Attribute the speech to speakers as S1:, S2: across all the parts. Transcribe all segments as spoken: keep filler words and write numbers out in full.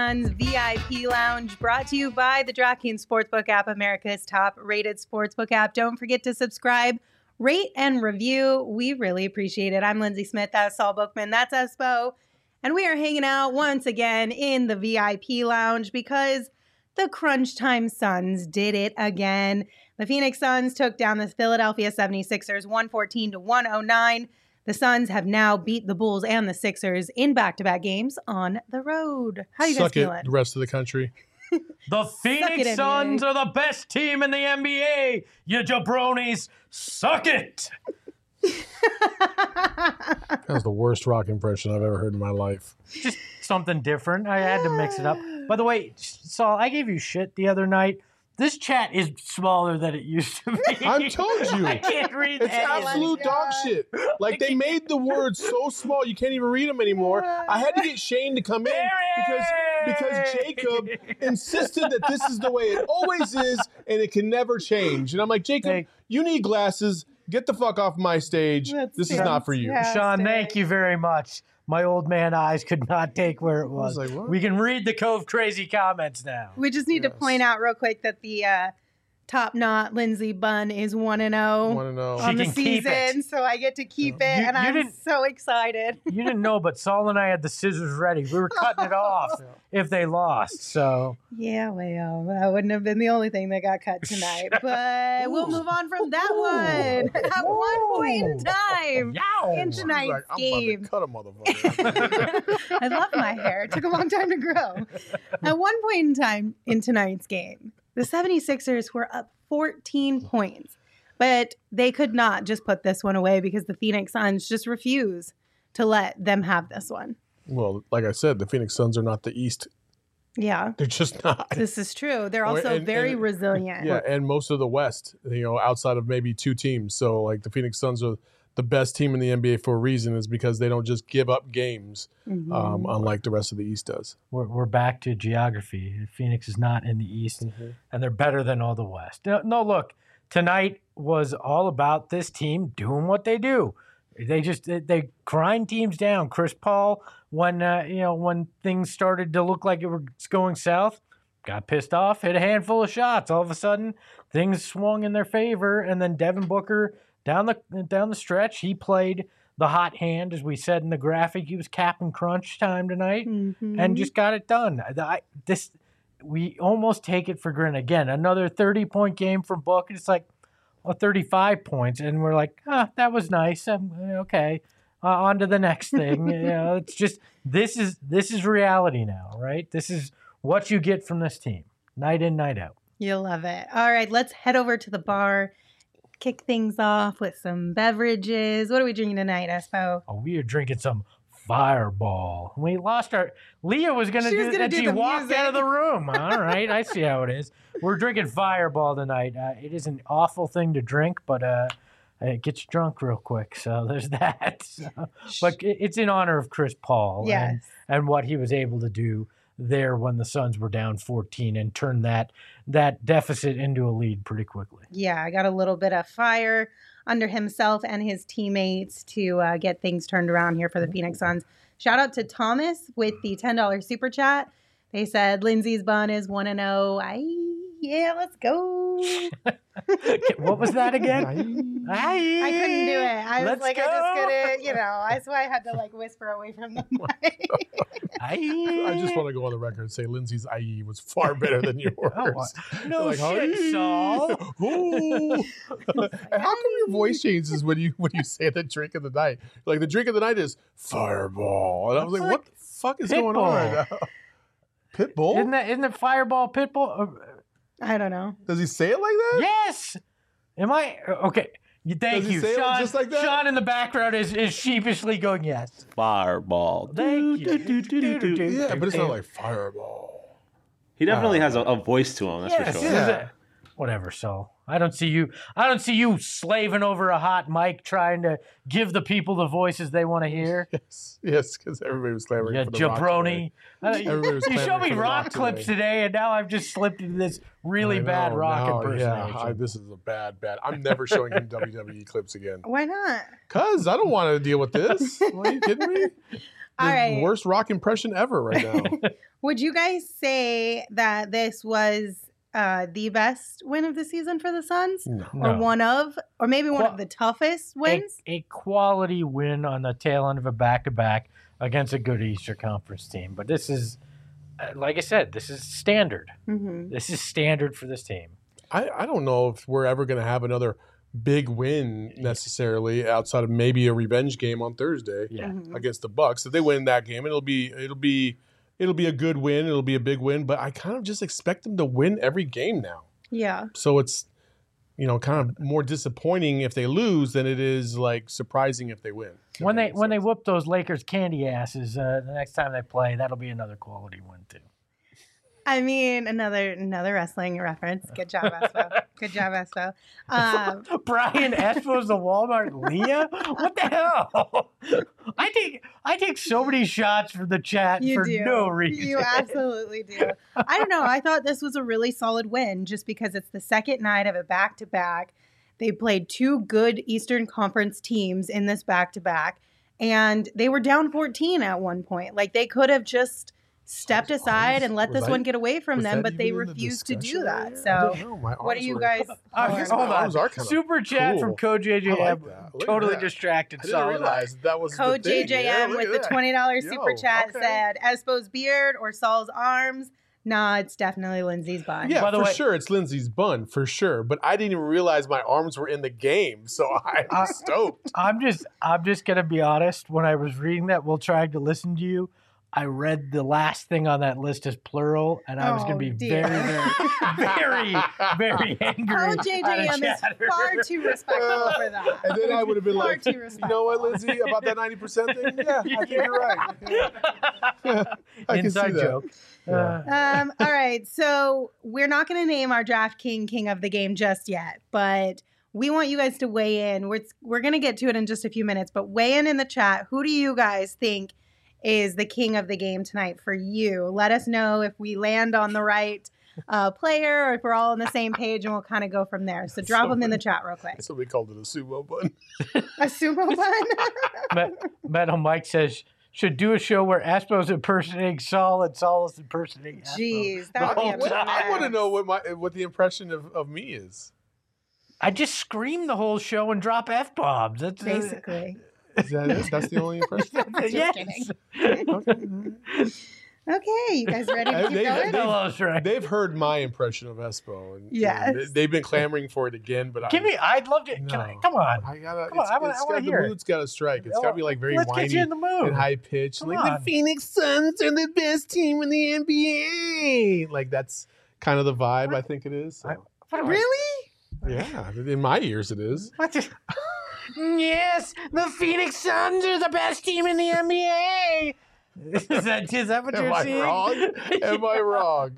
S1: Suns V I P Lounge, brought to you by the DraftKings Sportsbook app, America's top-rated sportsbook app. Don't forget to subscribe, rate, and review. We really appreciate it. I'm Lindsay Smith. That's Saul Bookman. That's Espo. And we are hanging out once again in the V I P Lounge because the Crunch Time Suns did it again. The Phoenix Suns took down the Philadelphia seventy-sixers one fourteen to one oh nine. The Suns have now beat the Bulls and the Sixers in back-to-back games on the road. How you
S2: Suck
S1: guys feeling?
S2: It, the rest of the country.
S3: The Phoenix
S1: it,
S3: Suns
S1: N B A.
S3: are the best team in the N B A. You jabronis, suck it.
S2: That was the worst rock impression I've ever heard in my life.
S3: Just something different. I had to mix it up. By the way, Saul, I gave you shit the other night. This chat is smaller than it used to be.
S2: I told you.
S3: I can't read
S2: It's
S3: that.
S2: absolute dog shit. Like, they made the words so small you can't even read them anymore. I had to get Shane to come in because because Jacob insisted that this is the way it always is and it can never change. And I'm like, Jacob,
S3: Thank-
S2: you need glasses. Get the fuck off my stage.
S1: That's
S2: This is not for you.
S1: fantastic.
S3: Sean, thank you very much. My old man eyes could not take where it was.
S2: was like, what?
S3: We can read the Cove Crazy comments now.
S1: We just need to
S2: Yes.
S1: point out real quick that the uh, top knot Lindsay Bunn is one and oh
S2: Want to know?
S1: on
S3: She
S1: the
S3: can keep
S1: season,
S3: it.
S1: so I get to keep it,
S3: You-
S1: and
S3: you
S1: I'm
S3: didn't-
S1: so excited.
S3: You didn't know, but Saul and I had the scissors ready. We were cutting it off if they lost. So
S1: Yeah, well, that wouldn't have been the only thing that got cut tonight, but we'll move on from that one. At one point in time
S3: Yow!
S1: in
S2: He's
S1: tonight's
S2: like, I'm
S1: game.
S2: about to cut a motherfucker.
S1: I love my hair. It took a long time to grow. At one point in time in tonight's game, the seventy-sixers were up fourteen points, but they could not just put this one away because the Phoenix Suns just refuse to let them have this one.
S2: Well, like I said, the Phoenix Suns are not the East.
S1: Yeah,
S2: They're just not.
S1: this is true. They're
S2: Or-
S1: also
S2: and-
S1: very
S2: and-
S1: resilient.
S2: Yeah, and most of the West, you know, outside of maybe two teams. So, like, the Phoenix Suns are the best team in the N B A for a reason, is because they don't just give up games,
S1: Mhm.
S2: um, unlike the rest of the East does.
S3: we're, we're back to geography. Phoenix is not in the East, and they're better than all the West. No, no, look, tonight was all about this team doing what they do. They just they, they grind teams down. Chris Paul, when uh, you know when things started to look like it was going south, got pissed off, hit a handful of shots. All of a sudden, things swung in their favor, and then Devin Booker down the down the stretch, he played the hot hand, as we said in the graphic. He was capping crunch time tonight,
S1: Mhm.
S3: and just got it done. I, this we almost take it for granted. Again, another thirty point game from Book, and it's like, well, thirty-five points, and we're like, ah, that was nice. Um, okay, uh, on to the next thing. You know, it's just this is this is reality now, right? This is what you get from this team, night in, night out.
S1: You'll love it. All right, let's head over to the bar, kick things off with some beverages. What are we drinking tonight, Espo?
S3: Oh, we are drinking some Fireball. We lost our. Leah was going to
S1: She
S3: do
S1: was gonna
S3: that.
S1: do
S3: She
S1: the
S3: walked
S1: music.
S3: out of the room. All right, I see how it is. We're drinking Fireball tonight. Uh, it is an awful thing to drink, but uh, it gets you drunk real quick. So there's that. So, but it- it's in honor of Chris Paul and,
S1: Yes.
S3: and what he was able to do there when the Suns were down fourteen and turn that that deficit into a lead pretty quickly.
S1: Yeah, I got a little bit of fire under himself and his teammates to uh, get things turned around here for the Phoenix Suns. Shout out to Thomas with the ten dollars super chat. They said Lindsay's bun is one and oh. I yeah, let's go.
S3: What was that again?
S1: I couldn't do it. I was
S3: Let's
S1: like,
S3: go.
S1: I just couldn't, you know, that's why I had to like whisper away from the mic.
S2: I just want to go on the record and say Lindsay's I E was far better than yours.
S3: Oh, no
S2: Like,
S3: shit,
S2: "Aye."
S3: Saul.
S2: Ooh. And how come your voice changes when you when you say the drink of the night? Like, the drink of the night is Fireball, and I was like,
S3: That's
S2: what the fuck is going on right now? Pitbull?
S3: Isn't that isn't it Fireball Pitbull? Uh,
S1: I don't know.
S2: Does he say it like that?
S3: yes. Am I okay? You, thank
S2: Does he
S3: you,
S2: say it
S3: Sean.
S2: just like that?
S3: Sean in the background is, is sheepishly going yes.
S4: Fireball.
S3: Thank you.
S2: Yeah, but it's not like Fireball.
S4: He definitely has a, a voice to him. That's
S3: Yes.
S4: for sure.
S2: Yeah.
S3: Whatever. So I don't see you. I don't see you slaving over a hot mic trying to give the people the voices they want to hear.
S2: Yes, yes, because everybody was clamoring
S3: You
S2: for the Rock
S3: jabroni. Uh,
S2: today.
S3: you
S2: Everybody was
S3: you showed
S2: clamoring
S3: me
S2: for the
S3: rock
S2: Rock
S3: clips
S2: today.
S3: today, and now I've just slipped into this really
S2: I
S3: bad
S2: know,
S3: rock
S2: now,
S3: impersonation.
S2: Yeah, I, this is a bad, bad. I'm never showing him W W E clips again.
S1: Why not?
S2: Cause I don't want to deal with this. Are you kidding me?
S1: All
S2: the
S1: right.
S2: worst rock impression ever right now.
S1: Would you guys say that this was uh, the best win of the season for the Suns?
S2: No.
S1: Or
S3: No.
S1: one of, or maybe one
S3: Qua-
S1: of the toughest
S3: A,
S1: wins?
S3: a quality win on the tail end of a back-to-back against a good Eastern Conference team. But this is, uh, like I said, this is standard.
S1: Mm-hmm.
S3: This is standard for this team.
S2: I, I don't know if we're ever going to have another big win necessarily outside of maybe a revenge game on Thursday
S3: Yeah.
S1: Mm-hmm.
S2: against the Bucks. If they win that game, it'll be it'll be it'll be a good win. It'll be a big win. But I kind of just expect them to win every game now.
S1: Yeah.
S2: So it's, you know, kind of more disappointing if they lose than it is like surprising if they win.
S3: When they when they whoop those Lakers candy asses uh, the next time they play, that'll be another quality win too.
S1: I mean, another another wrestling reference. Good job, Espo. Good job, Espo. Um,
S3: Brian Espo's the Walmart Leah? What the hell? I take I take so many shots from the chat
S1: you
S3: for
S1: do.
S3: no reason.
S1: You absolutely do. I don't know. I thought this was a really solid win just because it's the second night of a back to back. They played two good Eastern Conference teams in this back to back, and they were down fourteen at one point. Like they could have just stepped aside and let
S2: Was
S1: this
S2: I-
S1: one get away from
S2: was
S1: them,
S2: that
S1: but they
S2: even in the
S1: refused to do
S2: discussion
S1: that.
S2: earlier? I
S1: So,
S2: didn't know. My
S1: what do
S2: arms
S1: you
S2: were-
S1: guys?
S3: Uh,
S2: My
S3: hold
S2: arms
S3: on.
S2: are kinda
S3: Super chat
S2: cool.
S3: from Code J J
S2: I like
S3: M.
S2: that. Look at
S3: Totally
S2: that.
S3: distracted.
S2: I didn't
S3: Solid.
S2: realize that was
S1: Code
S2: the thing.
S1: J J
S2: Yeah,
S1: M
S2: look
S1: with
S2: at
S1: the
S2: that.
S1: twenty dollars
S2: Yo,
S1: super chat
S2: okay.
S1: said, Espo's beard or Saul's arms? Nah, it's definitely Lindsay's bun.
S2: Yeah,
S3: By the
S2: for
S3: way-
S2: sure, it's Lindsay's bun for sure. But I didn't even realize my arms were in the game, so I'm
S3: Uh,
S2: stoked.
S3: I'm just I'm just gonna be honest. When I was reading that while trying to listen to you, I read the last thing on that list as plural, and I was gonna
S1: Oh,
S3: be
S1: dear.
S3: very, very, very, very angry.
S1: Code J J M
S3: at a
S1: is
S3: chatter.
S1: far too respectful for that.
S2: And then I would have been
S1: Far
S2: like,
S1: too
S2: you
S1: respectful.
S2: know what, Lindsay, about that ninety percent thing? Yeah, I think you're right. Yeah. Yeah, I can
S3: Inside
S2: see that.
S3: joke. Uh,
S1: Um, all right, so we're not going to name our draft king king of the game just yet, but we want you guys to weigh in. We're we're going to get to it in just a few minutes, but weigh in in the chat. Who do you guys think is the king of the game tonight for you? Let us know if we land on the right uh, player or if we're all on the same page, and we'll kind of go from there. So drop them in the chat real quick.
S2: Somebody called it a sumo bun.
S1: A sumo bun.
S3: Met- Metal Mike says should do a show where Aspo's impersonating Saul and Saul is impersonating Aspo.
S1: Jeez,
S2: I,
S1: that would be
S3: whole
S1: a
S3: time.
S2: I want to
S1: mess.
S2: know what my what the impression of, of me is.
S3: I just scream the whole show and drop f bombs. That's uh,
S1: Basically.
S2: Is that it? That's the only impression?
S1: Just
S3: yes.
S1: kidding.
S2: Okay.
S1: Okay, you guys ready to
S2: Hey,
S1: keep
S2: they-
S1: going?
S2: they-
S3: Hello's right.
S2: They've heard my impression of Espo. And,
S1: Yes.
S2: and they, have been clamoring for it again, but
S3: Give
S2: I,
S3: me. I'd love to. Can I,
S2: No.
S3: come on.
S2: I gotta.
S3: Come on,
S2: it's,
S3: I wanna-
S2: it's
S3: I wanna
S2: got, the
S3: hear it.
S2: mood's got to strike. It's got to be like very
S3: Let's
S2: whiny
S3: get you in the mood.
S2: and high pitched.
S3: Come
S2: Like
S3: on.
S2: the Phoenix Suns are the best team in the N B A. Like that's kind of the vibe I think it is. So.
S3: I- What am I-
S1: Really?
S2: Yeah, in my ears it is.
S3: What the- yes, the Phoenix Suns are the best team in the N B A. Is that, is that what
S2: Am
S3: you're
S2: I
S3: seeing?
S2: wrong? Am I wrong?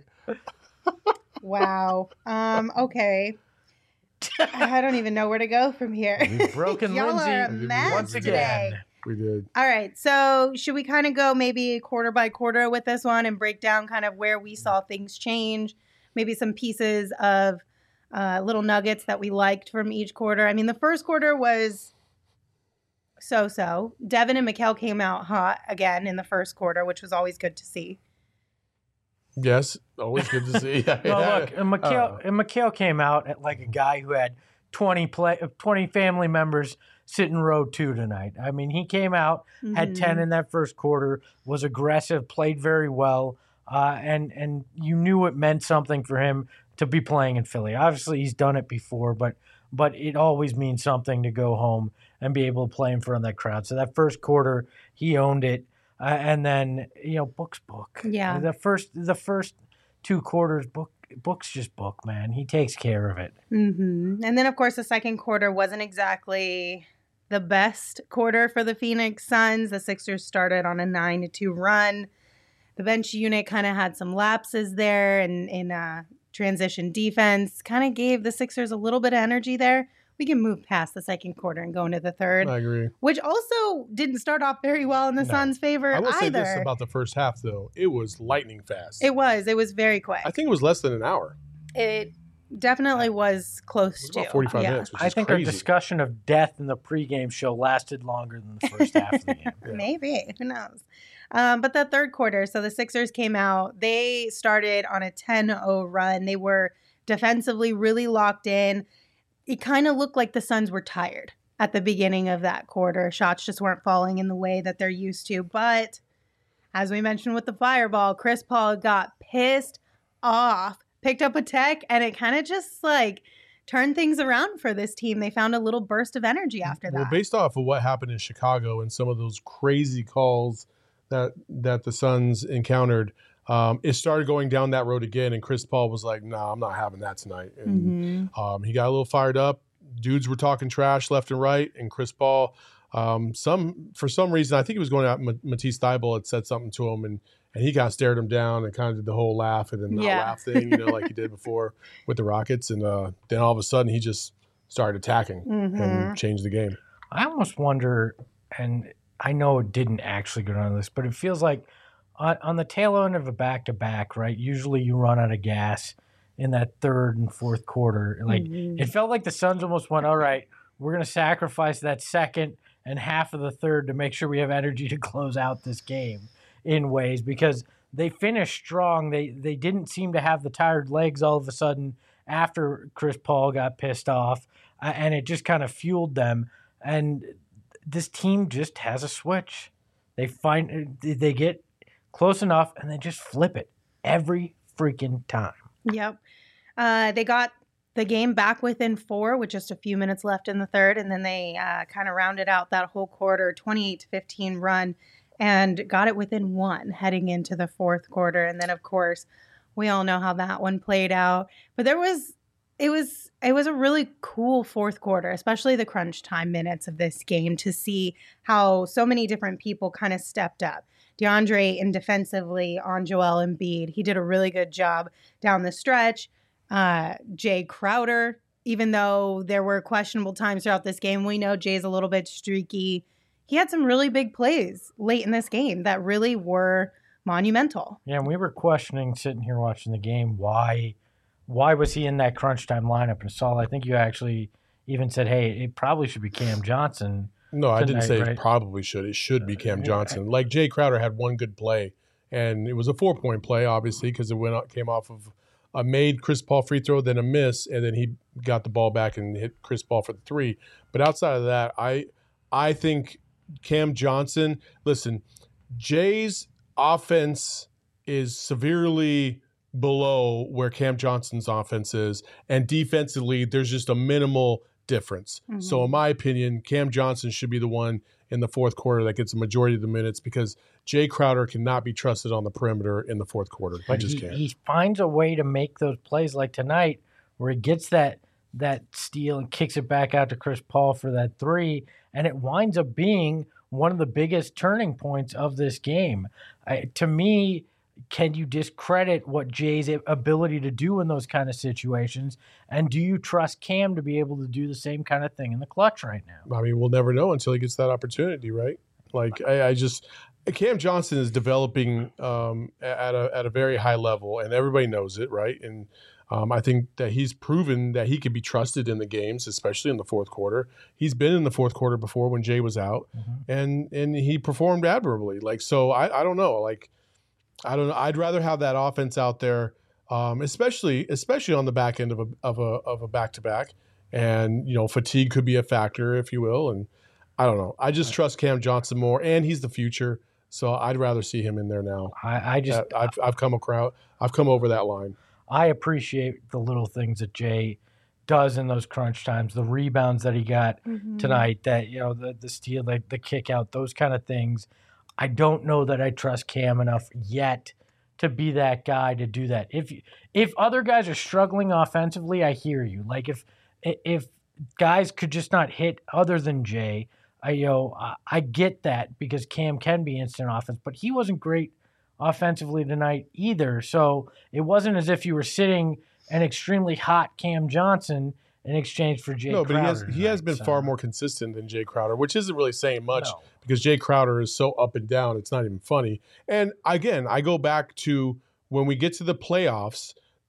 S1: Wow. Um, okay. I don't even know where to go from here.
S3: We've broken
S1: Y'all
S3: Lindsay
S1: are a mess
S3: once
S1: today.
S3: again.
S2: We did.
S1: All right. So, should we kind of go maybe quarter by quarter with this one and break down kind of where we saw things change? Maybe some pieces of uh, little nuggets that we liked from each quarter. I mean, the first quarter was so-so. Devin and Mikal came out hot again in the first quarter, which was always good to see.
S2: Yes, always good to see.
S3: Well,
S2: Yeah.
S3: look, and Mikhail,
S2: Uh,
S3: and Mikhail came out at like a guy who had twenty play, twenty family members sit in row two tonight. I mean, he came out, had
S1: Mhm.
S3: ten in that first quarter, was aggressive, played very well, uh, and and you knew it meant something for him to be playing in Philly. Obviously, he's done it before, but but it always means something to go home and be able to play in front of that crowd. So that first quarter, he owned it, uh, and then you know, Book's book.
S1: Yeah.
S3: the first the first two quarters, Book Book's just Book, man. He takes care of it.
S1: Mm-hmm. And then, of course, the second quarter wasn't exactly the best quarter for the Phoenix Suns. The Sixers started on a nine to two run. The bench unit kind of had some lapses there and in uh, transition defense. Kind of gave the Sixers a little bit of energy there. We can move past the second quarter and go into the third,
S2: I agree.
S1: which also didn't start off very well in the
S3: No.
S1: Suns' favor
S2: I will say
S1: either.
S2: this about the first half, though. It was lightning fast.
S1: It was. It was very quick.
S2: I think it was less than an hour.
S1: It definitely was close
S2: It was
S1: to.
S2: about forty-five
S1: yeah.
S2: minutes, which
S3: I
S2: is
S3: think
S2: crazy.
S3: our discussion of death in the pregame show lasted longer than the first half of the game.
S2: Yeah.
S1: Maybe. Who knows? Um, but the third quarter, so the Sixers came out. They started on a ten oh run. They were defensively really locked in. It kind of looked like the Suns were tired at the beginning of that quarter. Shots just weren't falling in the way that they're used to. But as we mentioned with the fireball, Chris Paul got pissed off, picked up a tech, and it kind of just like turned things around for this team. They found a little burst of energy after that.
S2: Well, based off of what happened in Chicago and some of those crazy calls that that the Suns encountered, um, it started going down that road again. And Chris Paul was like, "No, nah, I'm not having that tonight." And
S1: Mm-hmm.
S2: um, he got a little fired up. Dudes were talking trash left and right, and Chris Paul, um, some for some reason, I think he was going out. Matisse Thybulle had said something to him, and and he kind of stared him down and kind of did the whole laugh and then not
S1: Yeah.
S2: laugh thing, you know, like he did before with the Rockets. And uh, then all of a sudden, he just started attacking
S1: Mm-hmm.
S2: and changed the game.
S3: I almost wonder, and I know it didn't actually go down this, but it feels like on, on the tail end of a back-to-back, right, usually you run out of gas in that third and fourth quarter. Like
S1: Mhm.
S3: it felt like the Suns almost went, all right, we're going to sacrifice that second and half of the third to make sure we have energy to close out this game in ways, because they finished strong. They they didn't seem to have the tired legs all of a sudden after Chris Paul got pissed off, uh, and it just kind of fueled them. And this team just has a switch. They find they get close enough and they just flip it every freaking time.
S1: Yep. Uh, they got the game back within four with just a few minutes left in the third, and then they uh, kind of rounded out that whole quarter, twenty-eight to fifteen run, and got it within one heading into the fourth quarter. And then, of course, we all know how that one played out. But there was, it was, it was a really cool fourth quarter, especially the crunch time minutes of this game, to see how so many different people kind of stepped up. DeAndre in defensively on Joel Embiid. He did a really good job down the stretch. Uh, Jay Crowder, even though there were questionable times throughout this game, we know Jay's a little bit streaky. He had some really big plays late in this game that really were monumental.
S3: Yeah, and we were questioning sitting here watching the game, why why was he in that crunch time lineup? And Saul, I think you actually even said, hey, it probably should be Cam Johnson.
S2: No, I didn't
S3: tonight,
S2: say
S3: right?
S2: it probably should. It should be Cam
S3: yeah.
S2: Johnson. Like Jay Crowder had one good play, and it was a four-point play, obviously, because it went out, came off of a made Chris Paul free throw, then a miss, and then he got the ball back and hit Chris Paul for the three. But outside of that, I I think Cam Johnson, listen, Jay's offense is severely below where Cam Johnson's offense is, and defensively, there's just a minimal difference.
S1: Mhm.
S2: So in my opinion, Cam Johnson should be the one in the fourth quarter that gets the majority of the minutes, because Jay Crowder cannot be trusted on the perimeter in the fourth quarter. He
S3: But
S2: just
S3: he,
S2: can't.
S3: he finds a way to make those plays like tonight where he gets that that steal and kicks it back out to Chris Paul for that three, and it winds up being one of the biggest turning points of this game. I, to me, can you discredit what Jay's ability to do in those kind of situations? And do you trust Cam to be able to do the same kind of thing in the clutch right now?
S2: I mean, we'll never know until he gets that opportunity, right? Like, I, I just Cam Johnson is developing um, at a at a very high level, and everybody knows it, right? And um, I think that he's proven that he can be trusted in the games, especially in the fourth quarter. He's been in the fourth quarter before when Jay was out,
S3: Mm-hmm.
S2: and and he performed admirably. Like, so I, I don't know, like. I don't know. I'd rather have that offense out there, um, especially especially on the back end of a of a of a back to back, and you know fatigue could be a factor, if you will. And I don't know. I just trust Cam Johnson more, and he's the future, so I'd rather see him in there now.
S3: I, I just
S2: Uh, I've I've come across I've come over that line.
S3: I appreciate the little things that Jay does in those crunch times, the rebounds that he got
S1: Mm-hmm.
S3: tonight, that you know the the steal, the, the kick out, those kind of things. I don't know that I trust Cam enough yet to be that guy to do that. If if other guys are struggling offensively, I hear you. Like if if guys could just not hit other than Jay, I you know I, I get that, because Cam can be instant offense, but he wasn't great offensively tonight either. So it wasn't as if you were sitting an extremely hot Cam Johnson in exchange for Jay
S2: No, but he has
S3: Crowder
S2: he has
S3: tonight,
S2: been
S3: so-
S2: far more consistent than Jay Crowder, which isn't really saying much.
S3: No.
S2: Because Jay Crowder is so up and down, it's not even funny. And again, I go back to when we get to the playoffs,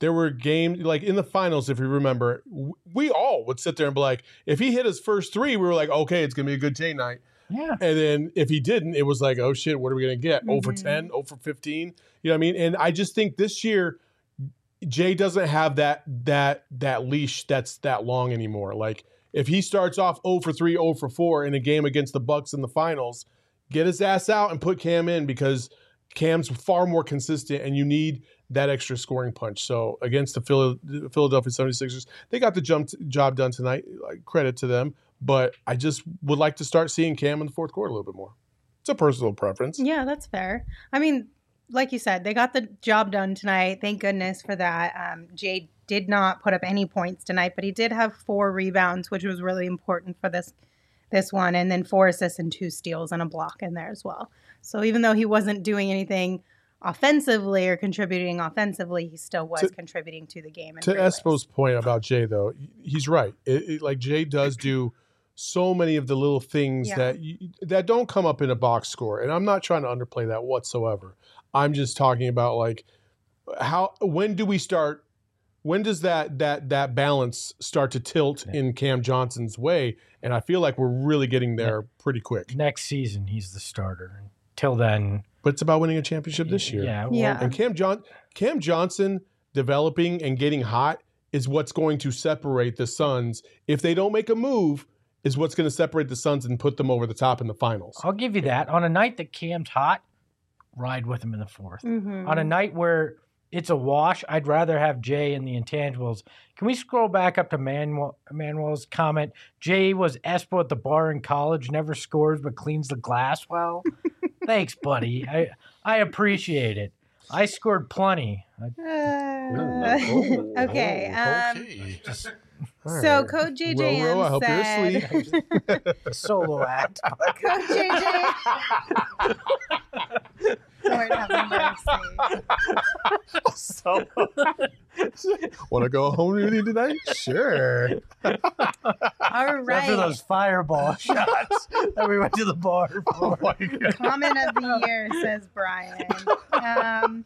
S2: there were games like in the finals, if you remember, we all would sit there and be like, if he hit his first three, we were like, okay, it's going to be a good Jay night.
S3: Yeah.
S2: And then if he didn't, it was like, oh shit, what are we going to get?
S1: Mm-hmm.
S2: zero for ten, zero for fifteen. You know what I mean? And I just think this year, Jay doesn't have that that that leash that's that long anymore. Like if he starts off zero for three, zero for four in a game against the Bucks in the finals, get his ass out and put Cam in because Cam's far more consistent and you need that extra scoring punch. So against the Philadelphia seventy-sixers, they got the jump job done tonight. Like, credit to them. But I just would like to start seeing Cam in the fourth quarter a little bit more. It's a personal preference.
S1: Yeah, that's fair. I mean, like you said, they got the job done tonight. Thank goodness for that. Um, Jay did not put up any points tonight, but he did have four rebounds, which was really important for this this one, and then four assists and two steals and a block in there as well. So even though he wasn't doing anything offensively or contributing offensively, he still was to, contributing to the game.
S2: To Espo's point about Jay, though, he's right. It, it, like Jay does do so many of the little things yeah. that you, that don't come up in a box score, and I'm not trying to underplay that whatsoever. I'm just talking about like how when do we start? When does that that that balance start to tilt in Cam Johnson's way? And I feel like we're really getting there pretty quick.
S3: Next season, he's the starter. Till then,
S2: but it's about winning a championship this year.
S3: Yeah,
S1: well, yeah.
S2: And Cam John Cam Johnson developing and getting hot is what's going to separate the Suns. If they don't make a move, is what's going to separate the Suns and put them over the top in the finals.
S3: I'll give you that. On a night that Cam's hot, ride with him in the fourth.
S1: Mm-hmm.
S3: On a night where it's a wash, I'd rather have Jay and the intangibles. Can we scroll back up to Manuel, Manuel's comment? Jay was Espo at the bar in college, never scores but cleans the glass well. Thanks, buddy. I I appreciate it. I scored plenty.
S1: Uh, okay. Um,
S2: okay.
S1: Just, so Coach J J M
S2: row, row, I
S1: said,
S2: hope you're asleep.
S3: Solo act.
S1: Coach J J. Lord have mercy.
S2: So, want to go home with you tonight? Sure.
S1: All right.
S3: After those fireball shots that we went to the bar for.
S2: Oh my God.
S1: Comment of the year, says Brian. Um,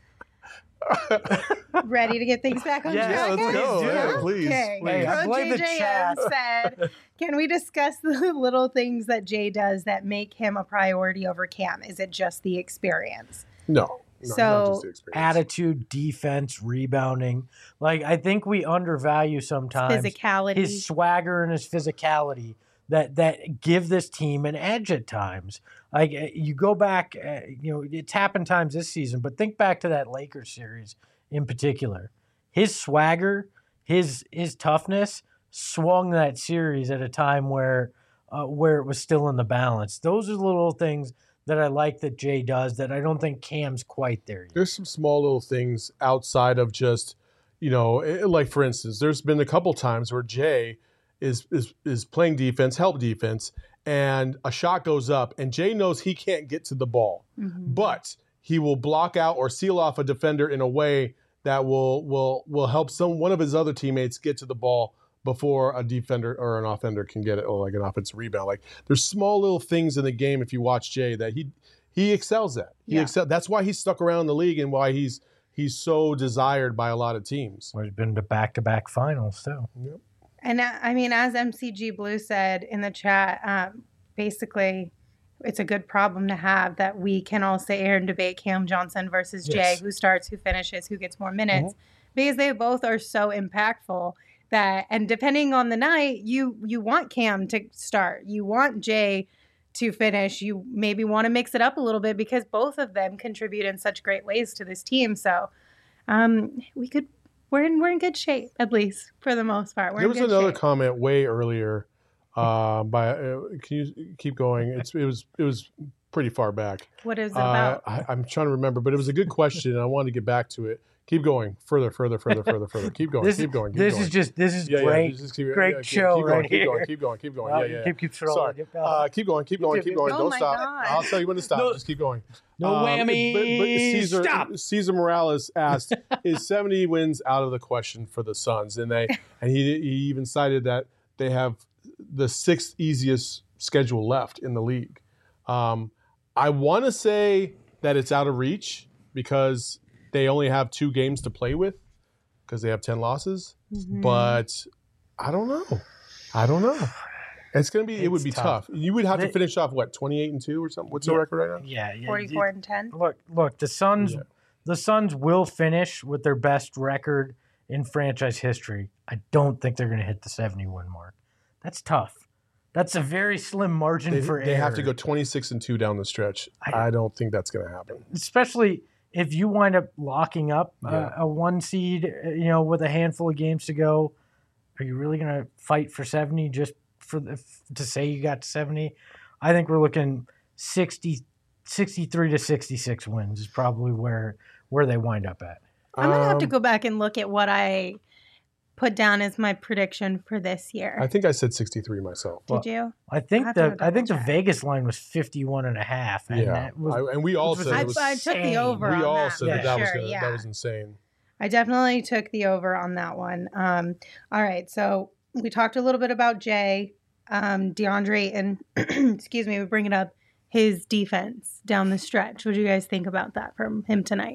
S1: ready to get things back on
S3: Yeah,
S1: track?
S2: let's go.
S1: guys?
S2: Yeah, please,
S1: Okay.
S2: please.
S3: Hey, I
S1: Coach
S3: blame the
S1: J J M
S3: chat.
S1: said, can we discuss the little things that Jay does that make him a priority over Cam? Is it just the experience?
S2: No. No,
S1: So,
S2: not just the experience.
S3: Attitude, defense, rebounding. Like, I think we undervalue sometimes
S1: Physicality.
S3: his swagger and his physicality that that give this team an edge at times. Like, uh, you go back, uh, you know, it's happened times this season, but think back to that Lakers series in particular. His swagger, his his toughness swung that series at a time where uh, where it was still in the balance. Those are the little things that I like that Jay does that I don't think Cam's quite there yet.
S2: There's some small little things outside of just, you know, it- like for instance, there's been a couple times where Jay is is is playing defense, help defense, and a shot goes up, and Jay knows he can't get to the ball,
S1: Mhm.
S2: but he will block out or seal off a defender in a way that will will will help some one of his other teammates get to the ball before a defender or an offender can get it, or like an offensive rebound. Like there's small little things in the game if you watch Jay that he he excels at. He
S1: Yeah.
S2: excel. That's why he's stuck around the league and why he's he's so desired by a lot of teams.
S3: Well, he's been to back-to-back finals, too.
S2: Yep.
S1: And uh, I mean, as M C G Blue said in the chat, um, basically, it's a good problem to have that we can all sit here and debate Cam Johnson versus Jay,
S2: Yes.
S1: who starts, who finishes, who gets more minutes,
S2: Mm-hmm.
S1: because they both are so impactful that, and depending on the night, you you want Cam to start, you want Jay to finish, you maybe want to mix it up a little bit because both of them contribute in such great ways to this team. So um, we could. We're in we're in good shape, at least for the most part. We're
S2: There
S1: in
S2: was
S1: good
S2: another
S1: shape.
S2: comment way earlier. Uh, by uh, can you keep going? It's it was it was pretty far back.
S1: What is it
S2: Uh,
S1: about?
S2: I, I'm trying to remember, but it was a good question, and I wanted to get back to it. Keep going, further, further, further, further, further. Keep going,
S3: This,
S2: keep going. Keep
S3: this
S2: going.
S3: is just, this is
S2: Yeah, yeah,
S3: great.
S2: just keep-
S3: great
S2: yeah, keep-
S3: show
S2: keep going,
S3: right
S2: keep
S3: here.
S2: Going, keep going, keep going.
S3: Well,
S2: Yeah, yeah.
S3: Keep, keep
S2: Sorry.
S3: trolling.
S2: Uh, keep going, keep going, keep going.
S1: Oh
S2: Don't
S1: my
S2: stop.
S1: God.
S2: I'll tell you when to stop.
S3: No-
S2: Just keep going.
S3: No
S2: Um,
S3: whammy.
S2: But, but Caesar,
S3: Stop.
S2: Caesar Morales asked, "Is seventy wins out of the question for the Suns?" And they and he he even cited that they have the sixth easiest schedule left in the league. Um, I want to say that it's out of reach because they only have two games to play with. because they have ten losses.
S1: Mhm.
S2: But I don't know. I don't know. It's gonna be. It would
S3: It's
S2: be
S3: tough.
S2: tough. You would have to
S3: They-
S2: finish off what twenty-eight and two or something. What's the
S3: Yeah.
S2: record right now?
S3: Yeah, yeah.
S1: forty-four and ten.
S3: Look, look. The Suns,
S2: Yeah.
S3: the Suns will finish with their best record in franchise history. I don't think they're going to hit the seventy-one mark. That's tough. That's a very slim margin
S2: They,
S3: for
S2: they have to
S3: error.
S2: go twenty-six and two down the stretch.
S3: I-
S2: I, don't think that's gonna happen.
S3: Especially if you wind up locking up
S2: Yeah.
S3: a, a one seed, uh, you know, with a handful of games to go. Are you really going to fight for seventy just for the, to say you got to seventy? I think we're looking sixty, sixty-three to sixty-six wins is probably where where they wind up at.
S1: I'm gonna have to
S2: Um,
S1: go back and look at what I put down as my prediction for this year.
S2: I think I said sixty-three myself.
S1: Did you?
S3: I think
S1: have to
S3: the
S1: go
S3: I think the
S1: double check.
S3: Vegas line was fifty-one and a half. And
S2: Yeah,
S3: that was,
S2: I, and we all
S3: which was
S2: said
S1: I,
S2: it was.
S1: I took the
S3: insane.
S1: over.
S2: we
S1: on
S2: all
S1: that,
S2: said
S3: Yeah.
S2: that that was
S1: sure,
S2: gonna,
S1: yeah.
S2: that was insane.
S1: I definitely took the over on that one. Um, all right, so we talked a little bit about Jay, um, DeAndre, and excuse me, we bring it up his defense down the stretch. What do you guys think about that from him tonight?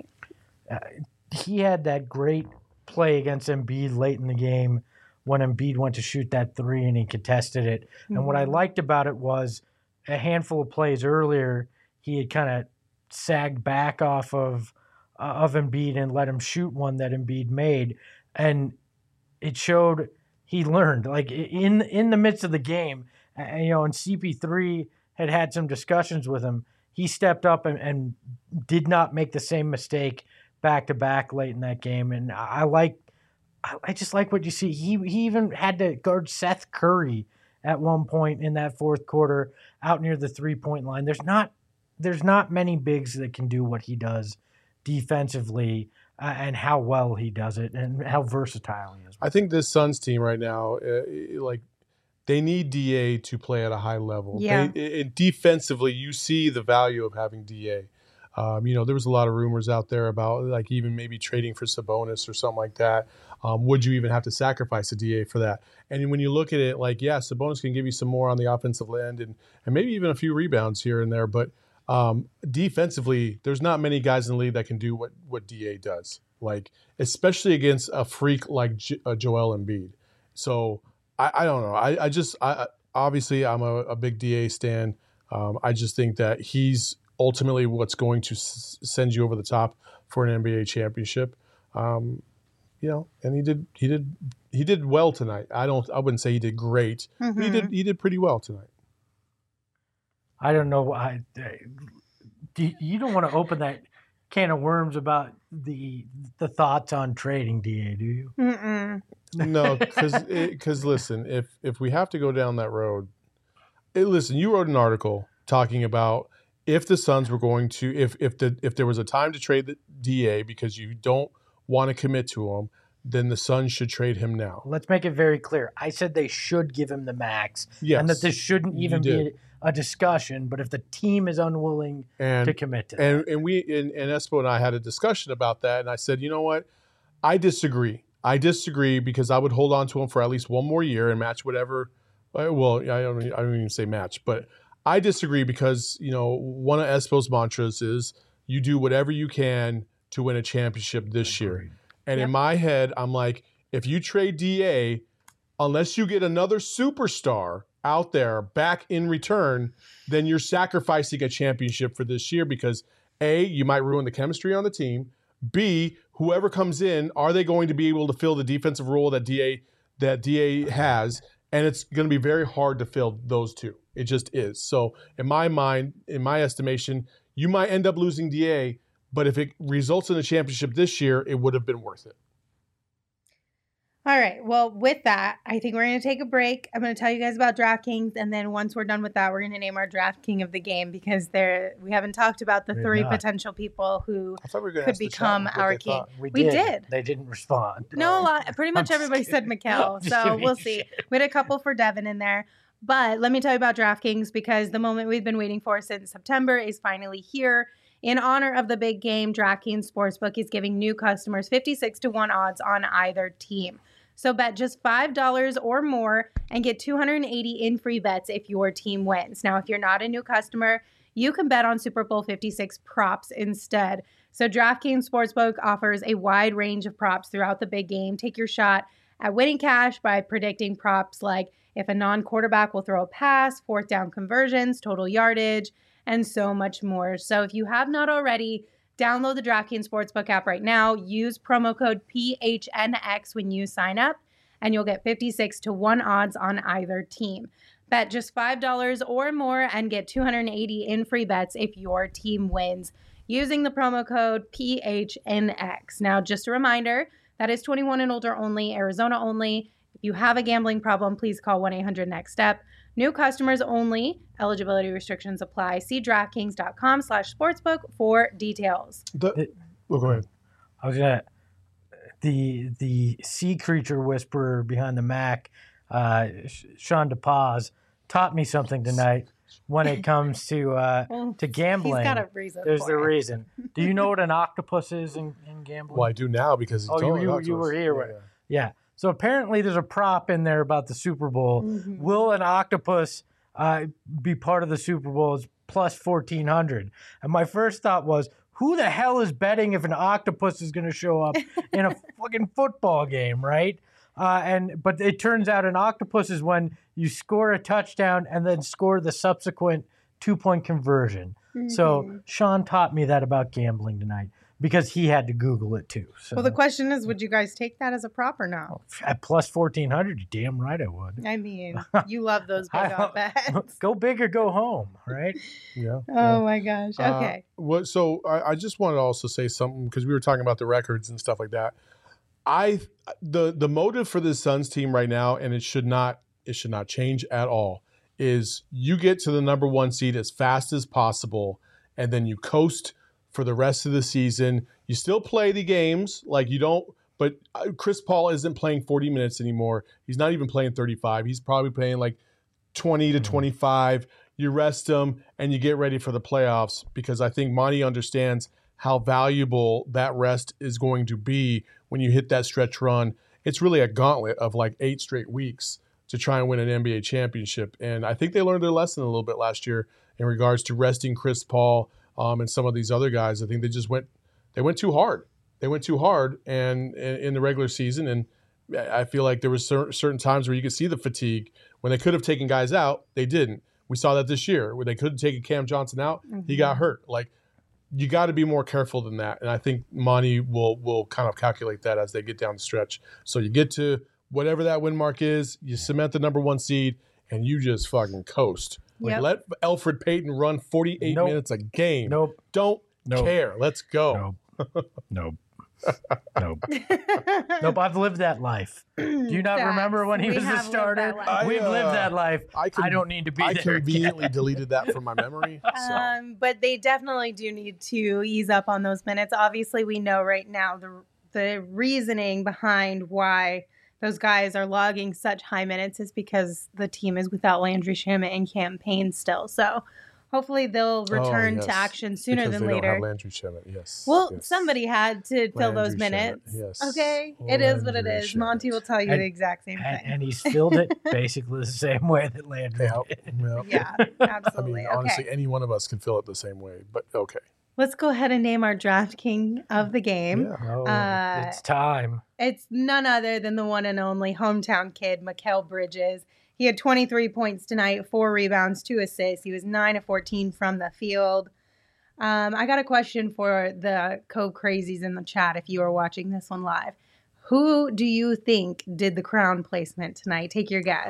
S3: he had that great play against Embiid late in the game when Embiid went to shoot that three and he contested it. And what I
S1: Mhm.
S3: liked about it was a handful of plays earlier, he had kind of sagged back off of uh, of Embiid and let him shoot one that Embiid made, and it showed he learned. Like in in the midst of the game, uh, you know, and C P three had had some discussions with him. He stepped up and, and did not make the same mistake back to back late in that game, and I, I like. I, I just like what you see. He he even had to guard Seth Curry at one point in that fourth quarter out near the three point line. There's not there's not many bigs that can do what he does defensively, uh, and how well he does it and how versatile he is.
S2: I think this Suns team right now, uh, like they need D A to play at a high level.
S1: Yeah.
S2: They, it, defensively, you see the value of having D A. Um, you know, there was a lot of rumors out there about like even maybe trading for Sabonis or something like that. Um, would you even have to sacrifice a D A for that? And when you look at it, like, yeah, Sabonis can give you some more on the offensive end and, and maybe even a few rebounds here and there. But um, defensively, there's not many guys in the league that can do what, what D A does, like especially against a freak like J- uh, Joel Embiid. So I, I don't know. I, I just I, obviously I'm a, a big D A stan. Um, I just think that he's ultimately what's going to s- send you over the top for an N B A championship. Um, you know, and he did he did he did well tonight. I don't I wouldn't say he did great. But he
S1: Mhm.
S2: did he did pretty well tonight.
S3: I don't know. I do you don't want to open that can of worms about the the thoughts on trading D A, do you?
S1: Mm-mm.
S2: No, because because listen, if if we have to go down that road, it, listen, you wrote an article talking about if the Suns were going to if if the if there was a time to trade the D A because you don't want to commit to him, then the Suns should trade him now.
S3: Let's make it very clear. I said they should give him the max,
S2: Yes,
S3: and that this shouldn't
S2: you
S3: even
S2: did.
S3: be a discussion. But if the team is unwilling
S2: and
S3: to commit to that,
S2: and and we and, and Espo and I had a discussion about that, and I said, you know what, I disagree. I disagree because I would hold on to him for at least one more year and match whatever. Well, I don't. I don't even say match, but I disagree because you know one of Espo's mantras is you do whatever you can to win a championship this year.
S3: Agreed.
S2: And
S1: Yep.
S2: in my head, I'm like, if you trade D A, unless you get another superstar out there back in return, then you're sacrificing a championship for this year because A, you might ruin the chemistry on the team. B, whoever comes in, are they going to be able to fill the defensive role that D A that D A has? And it's going to be very hard to fill those two. It just is. So in my mind, in my estimation, you might end up losing D A, but if it results in a championship this year, it would have been worth it.
S1: All right. Well, with that, I think we're going to take a break. I'm going to tell you guys about DraftKings, and then once we're done with that, we're going to name our Draft King of the game because there we haven't talked about the
S3: We're
S1: three
S3: not.
S1: potential people who.
S2: I thought we were going
S1: Could become our king.
S3: we,
S1: We
S3: did.
S1: did.
S3: They didn't respond.
S1: No, a lot, pretty much
S3: just
S1: everybody said
S3: kidding.
S1: Mikal,
S3: I'm just
S1: so
S3: giving
S1: we'll
S3: you
S1: see.
S3: shit.
S1: We had a couple for Devin in there. But let me tell you about DraftKings because the moment we've been waiting for since September is finally here. In honor of the big game, DraftKings Sportsbook is giving new customers fifty-six to one odds on either team. So bet just five dollars or more and get two hundred eighty in free bets if your team wins. Now, if you're not a new customer, you can bet on Super Bowl fifty-six props instead. So DraftKings Sportsbook offers a wide range of props throughout the big game. Take your shot at winning cash by predicting props like if a non-quarterback will throw a pass, fourth down conversions, total yardage, and so much more. So if you have not already, download the DraftKings Sportsbook app right now. Use promo code P H N X when you sign up, and you'll get fifty-six to one odds on either team. Bet just five dollars or more and get two hundred eighty in free bets if your team wins using the promo code P H N X. Now, just a reminder, that is twenty-one and older only, Arizona only. If you have a gambling problem, please call one eight hundred next step. New customers only. Eligibility restrictions apply. See DraftKings.com slash sportsbook for details.
S2: The, oh, go ahead.
S3: I was gonna the the sea creature whisperer behind the Mac, uh, Sean DePaz, taught me something tonight when it comes to uh,
S1: Well,
S3: to gambling.
S1: He's got a reason
S3: There's
S1: for
S3: the
S1: it.
S3: reason. Do you know what an octopus is in, in gambling?
S2: Well, I do now because
S3: Oh,
S2: it's
S3: you,
S2: all
S3: you,
S2: about
S3: you
S2: us.
S3: were here.
S2: Yeah,
S3: right?
S2: yeah.
S3: Yeah. So apparently there's a prop in there about the Super Bowl.
S1: Mhm.
S3: Will an octopus uh, be part of the Super Bowl? It's plus fourteen hundred. And my first thought was, who the hell is betting if an octopus is going to show up in a fucking football game, right? Uh, and but it turns out an octopus is when you score a touchdown and then score the subsequent two-point conversion. So
S1: Mhm.
S3: Sean taught me that about gambling tonight because he had to Google it too. So
S1: Well, the question is, would you guys take that as a prop or not?
S3: at plus fourteen hundred, you damn right I would.
S1: I mean, you love those big
S3: I-
S1: odd bets.
S3: Go big or go home, right?
S2: Yeah.
S1: Oh my gosh.
S2: Uh,
S1: Okay.
S2: what, so I, I just wanted to also say something because we were talking about the records and stuff like that. I the the motive for this Suns team right now, and it should not it should not change at all, is you get to the number one seed as fast as possible, and then you coast for the rest of the season. You still play the games, like you don't. But uh, Chris Paul isn't playing forty minutes anymore. He's not even playing thirty-five. He's probably playing like twenty to twenty-five. You rest him and you get ready for the playoffs because I think Monty understands how valuable that rest is going to be when you hit that stretch run. It's really a gauntlet of like eight straight weeks to try and win an N B A championship. And I think they learned their lesson a little bit last year in regards to resting Chris Paul um, and some of these other guys. I think they just went they went too hard. They went too hard and in the regular season. And I feel like there was cer- certain times where you could see the fatigue. When they could have taken guys out, they didn't. We saw that this year where they could have taken Cam Johnson out. He got hurt. Like, you got to be more careful than that. And I think Monty will will kind of calculate that as they get down the stretch. So you get to whatever that win mark is, you cement the number one seed, and you just fucking coast. Like,
S1: Yep.
S2: let Alfred Payton run forty-eight
S3: Nope.
S2: minutes a game.
S3: Nope.
S2: Don't
S3: Nope.
S2: care. Let's go.
S3: Nope. Nope. Nope. Nope. I've lived that life. Do you not
S1: Facts.
S3: remember when he
S1: We
S3: was the
S1: have lived
S3: starter?
S1: that life.
S2: I,
S3: We've
S2: uh,
S3: lived that life.
S2: I, con-
S3: I don't need to be
S2: I
S3: there.
S2: conveniently
S3: again.
S2: deleted that from my memory. So.
S1: Um, but they definitely do need to ease up on those minutes. Obviously, we know right now the the reasoning behind why those guys are logging such high minutes is because the team is without Landry Shamet and campaign still. So hopefully they'll return
S2: Oh, yes.
S1: to action sooner
S2: Because
S1: than
S2: they
S1: later.
S2: Don't have Landry Shamet. Yes.
S1: Well,
S2: yes.
S1: somebody had to fill those
S2: Landry Shamet,
S1: minutes.
S2: yes.
S1: Okay,
S2: Oh,
S1: it is what it
S2: Landry
S1: is. Monty
S2: Shamet.
S1: will tell you
S3: And-
S1: the exact same
S3: And,
S1: thing.
S3: and he's filled it basically the same way that Landry
S2: Yeah,
S3: did.
S2: yeah.
S1: Yeah,
S2: I
S1: absolutely.
S2: mean, honestly,
S1: Okay,
S2: any one of us can feel it the same way. But okay.
S1: let's go ahead and name our draft king of the game.
S2: Yeah.
S3: Oh,
S1: Uh,
S3: it's time.
S1: It's none other than the one and only hometown kid, Mikal Bridges. He had twenty-three points tonight, four rebounds, two assists. He was nine of fourteen from the field. Um, I got a question for the Cove Crazies in the chat if you are watching this one live. Who do you think did the crown placement tonight? Take your guess.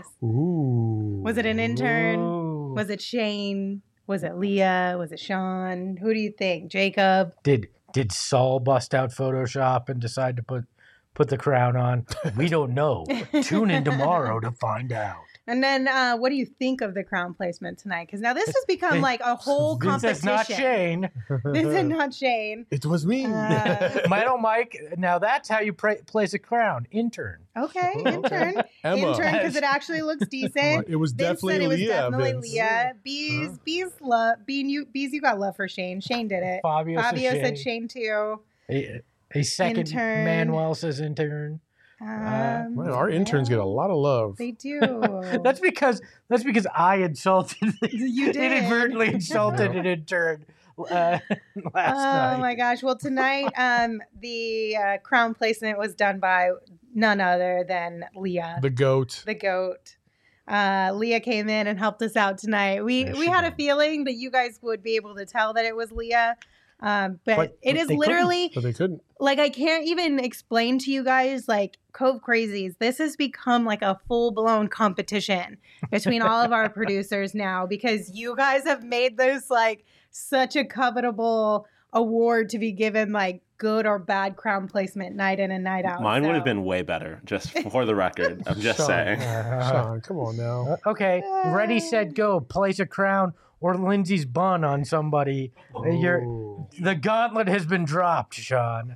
S2: Ooh.
S1: Was it an intern?
S3: Ooh.
S1: Was it Shane? Was it Leah? Was it Sean? Who do you think? Jacob?
S3: Did did Saul bust out Photoshop and decide to put put the crown on? We don't know. Tune in tomorrow to find out.
S1: And then, uh, what do you think of the crown placement tonight? Because now this has become like a whole
S3: This
S1: competition.
S3: is not Shane.
S1: This is not Shane.
S2: It was me.
S1: Uh,
S3: Mike, oh, Mike. Now that's how you pra- place a crown. Intern.
S1: Okay, intern,
S2: Emma.
S1: intern, because it actually looks decent.
S2: It was
S1: Vince
S2: definitely
S1: said it was
S2: Leah.
S1: definitely
S2: Vince.
S1: Leah. Bees,
S2: Huh?
S1: bees, love, bean, you, bees, you got love for Shane. Shane did it.
S3: Fabio,
S1: Fabio
S3: says
S1: said
S3: Shane.
S1: Shane too.
S3: A, a second
S1: Intern.
S3: Manuel says intern.
S1: Um,
S2: Man, our interns get a lot of love.
S1: They do.
S3: That's because that's because I insulted
S1: You did.
S3: inadvertently insulted an intern uh, last night.
S1: Oh my gosh. Well, tonight, um, the uh, crown placement was done by none other than Leah,
S2: The GOAT.
S1: the goat. Uh, Leah came in and helped us out tonight. We
S3: Yes,
S1: we
S3: she
S1: had a
S3: did.
S1: feeling that you guys would be able to tell that it was Leah. Um, but,
S3: But-
S1: it
S3: but
S1: is
S3: they couldn't.
S1: literally
S2: But they couldn't.
S1: like I can't even explain to you guys like Cove Crazies. This has become like a full blown competition between all of our producers now because you guys have made this like such a covetable award to be given like good or bad crown placement night in and night out.
S4: Mine would have
S1: So-
S4: been way better, just for the record. I'm just
S2: Sean.
S4: saying.
S3: Uh,
S2: Sean, come on now.
S3: okay, ready, set, go. Place a crown or Lindsay's bun on somebody. You're,
S2: Oh.
S3: the gauntlet has been dropped, Sean.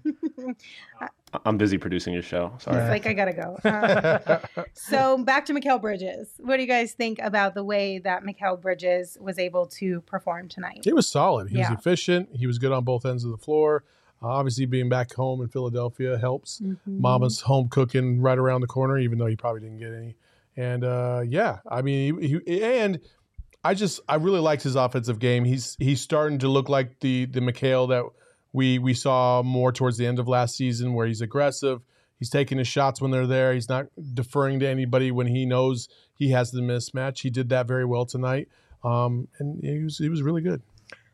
S4: I'm busy producing your show.
S1: It's
S4: Sorry.
S1: like I gotta go. Um, so back to Mikal Bridges. What do you guys think about the way that Mikal Bridges was able to perform tonight?
S2: He was solid. He
S1: Yeah.
S2: was efficient. He was good on both ends of the floor. Uh, obviously, being back home in Philadelphia helps.
S1: Mm-hmm.
S2: Mama's home cooking right around the corner, even though he probably didn't get any. And uh, yeah, I mean, he, he, and I just I really liked his offensive game. He's he's starting to look like the the Mikal that we we saw more towards the end of last season, where he's aggressive. He's taking his shots when they're there. He's not deferring to anybody when he knows he has the mismatch. He did that very well tonight, um, and he was he was really good.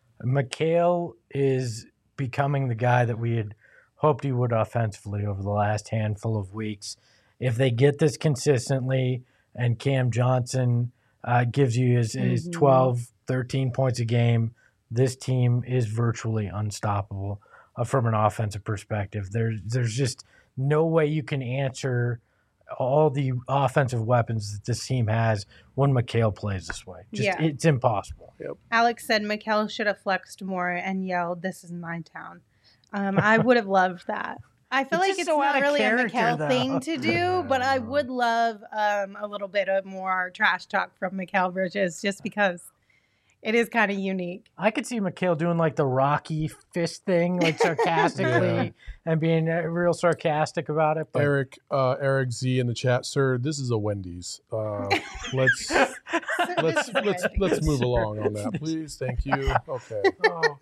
S3: Mikal is becoming the guy that we had hoped he would offensively over the last handful of weeks. If they get this consistently and Cam Johnson uh, gives you his, his
S1: Mhm.
S3: twelve, thirteen points a game, this team is virtually unstoppable uh, from an offensive perspective. There's, there's just no way you can answer all the offensive weapons that this team has when Mikal plays this way. Just,
S1: Yeah.
S3: It's impossible.
S1: Alex said Mikal should have flexed more and yelled, "This is my town." Um, I would have loved that. I feel
S3: It's
S1: like
S3: just
S1: it's
S3: so out
S1: not
S3: of
S1: really a
S3: character,
S1: Mikal
S3: though.
S1: thing to do, but I would love um, a little bit of more trash talk from Mikal Bridges just because it is kind of unique.
S3: I could see Mikal doing like the Rocky fist thing, like sarcastically,
S2: Yeah.
S3: and being uh, real sarcastic about it. But
S2: Eric uh, Eric Z in the chat, sir. This is a Wendy's. Uh, let's let's let's let's move along on that, please. Thank you. Okay.
S3: oh,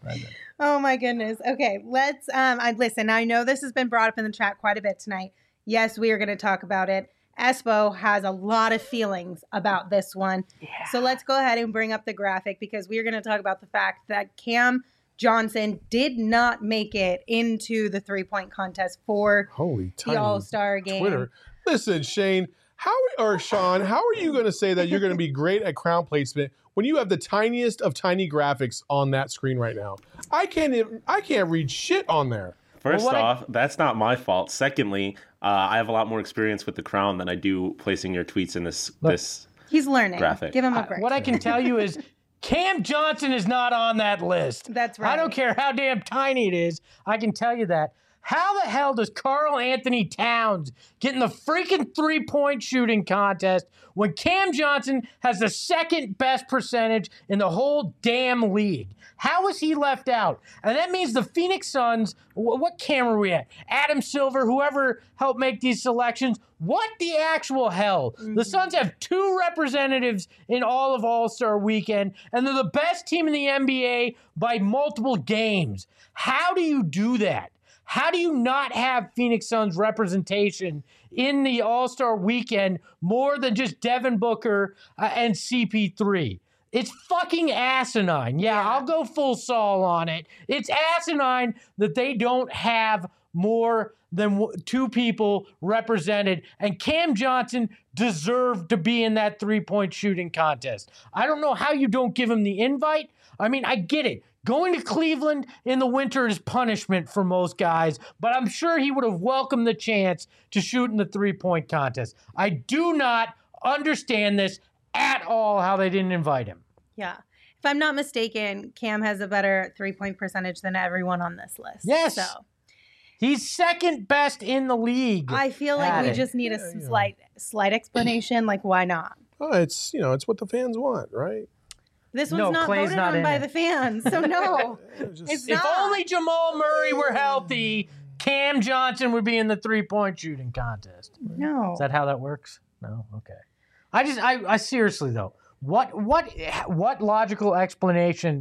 S1: Oh my goodness. Okay, let's um I listen, I know this has been brought up in the chat quite a bit tonight. Yes, we are going to talk about it. Espo has a lot of feelings about this one. So let's go ahead and bring up the graphic because we are going to talk about the fact that Cam Johnson did not make it into the three-point contest for
S2: Holy
S1: the
S2: tiny
S1: All-Star game.
S2: Twitter. Listen, Shane, how or Sean, how are you going to say that you're going to be great at crown placement when you have the tiniest of tiny graphics on that screen right now? I can't even, I can't read shit on there.
S4: First
S3: Well, what I-
S4: off, that's not my fault. Secondly, uh, I have a lot more experience with the crown than I do placing your tweets in this
S3: Look,
S4: this.
S1: He's learning.
S4: Graphic.
S1: Give him a
S3: I-
S1: break.
S3: what I can tell you is Cam Johnson is not on that list.
S1: That's right.
S3: I don't care how damn tiny it is. I can tell you that. How the hell does Karl Anthony Towns get in the freaking three-point shooting contest when Cam Johnson has the second best percentage in the whole damn league? How is he left out? And that means the Phoenix Suns, wh- what camera are we at? Adam Silver, whoever helped make these selections. What the actual hell? The Suns have two representatives in all of All-Star Weekend, and they're the best team in the N B A by multiple games. How do you do that? How do you not have Phoenix Suns representation in the All-Star Weekend more than just Devin Booker uh, and C P three? It's fucking asinine. Yeah, I'll go full Saul on it. It's asinine that they don't have more than w- two people represented, and Cam Johnson deserved to be in that three-point shooting contest. I don't know how you don't give him the invite. I mean, I get it. Going to Cleveland in the winter is punishment for most guys, but I'm sure he would have welcomed the chance to shoot in the three-point contest. I do not understand this at all, how they didn't invite him.
S1: Yeah. If I'm not mistaken, Cam has a better three-point percentage than everyone on this list.
S3: Yes.
S1: So
S3: He's second best in the league.
S1: I feel like
S3: Got
S1: we
S3: it.
S1: just need a
S2: Yeah, yeah.
S1: slight slight explanation. Like, why not?
S2: Oh, it's you know, it's what the fans want, right?
S1: This one's
S3: No,
S1: not
S3: Clay's
S1: voted
S3: not
S1: on
S3: in
S1: by
S3: it.
S1: the fans. So no.
S2: It's just-
S1: It's
S3: If
S1: not.
S3: only Jamal Murray were healthy, Cam Johnson would be in the three-point shooting contest.
S1: No.
S3: Is that how that works? No? Okay. I just, I, I seriously though, what, what, what logical explanation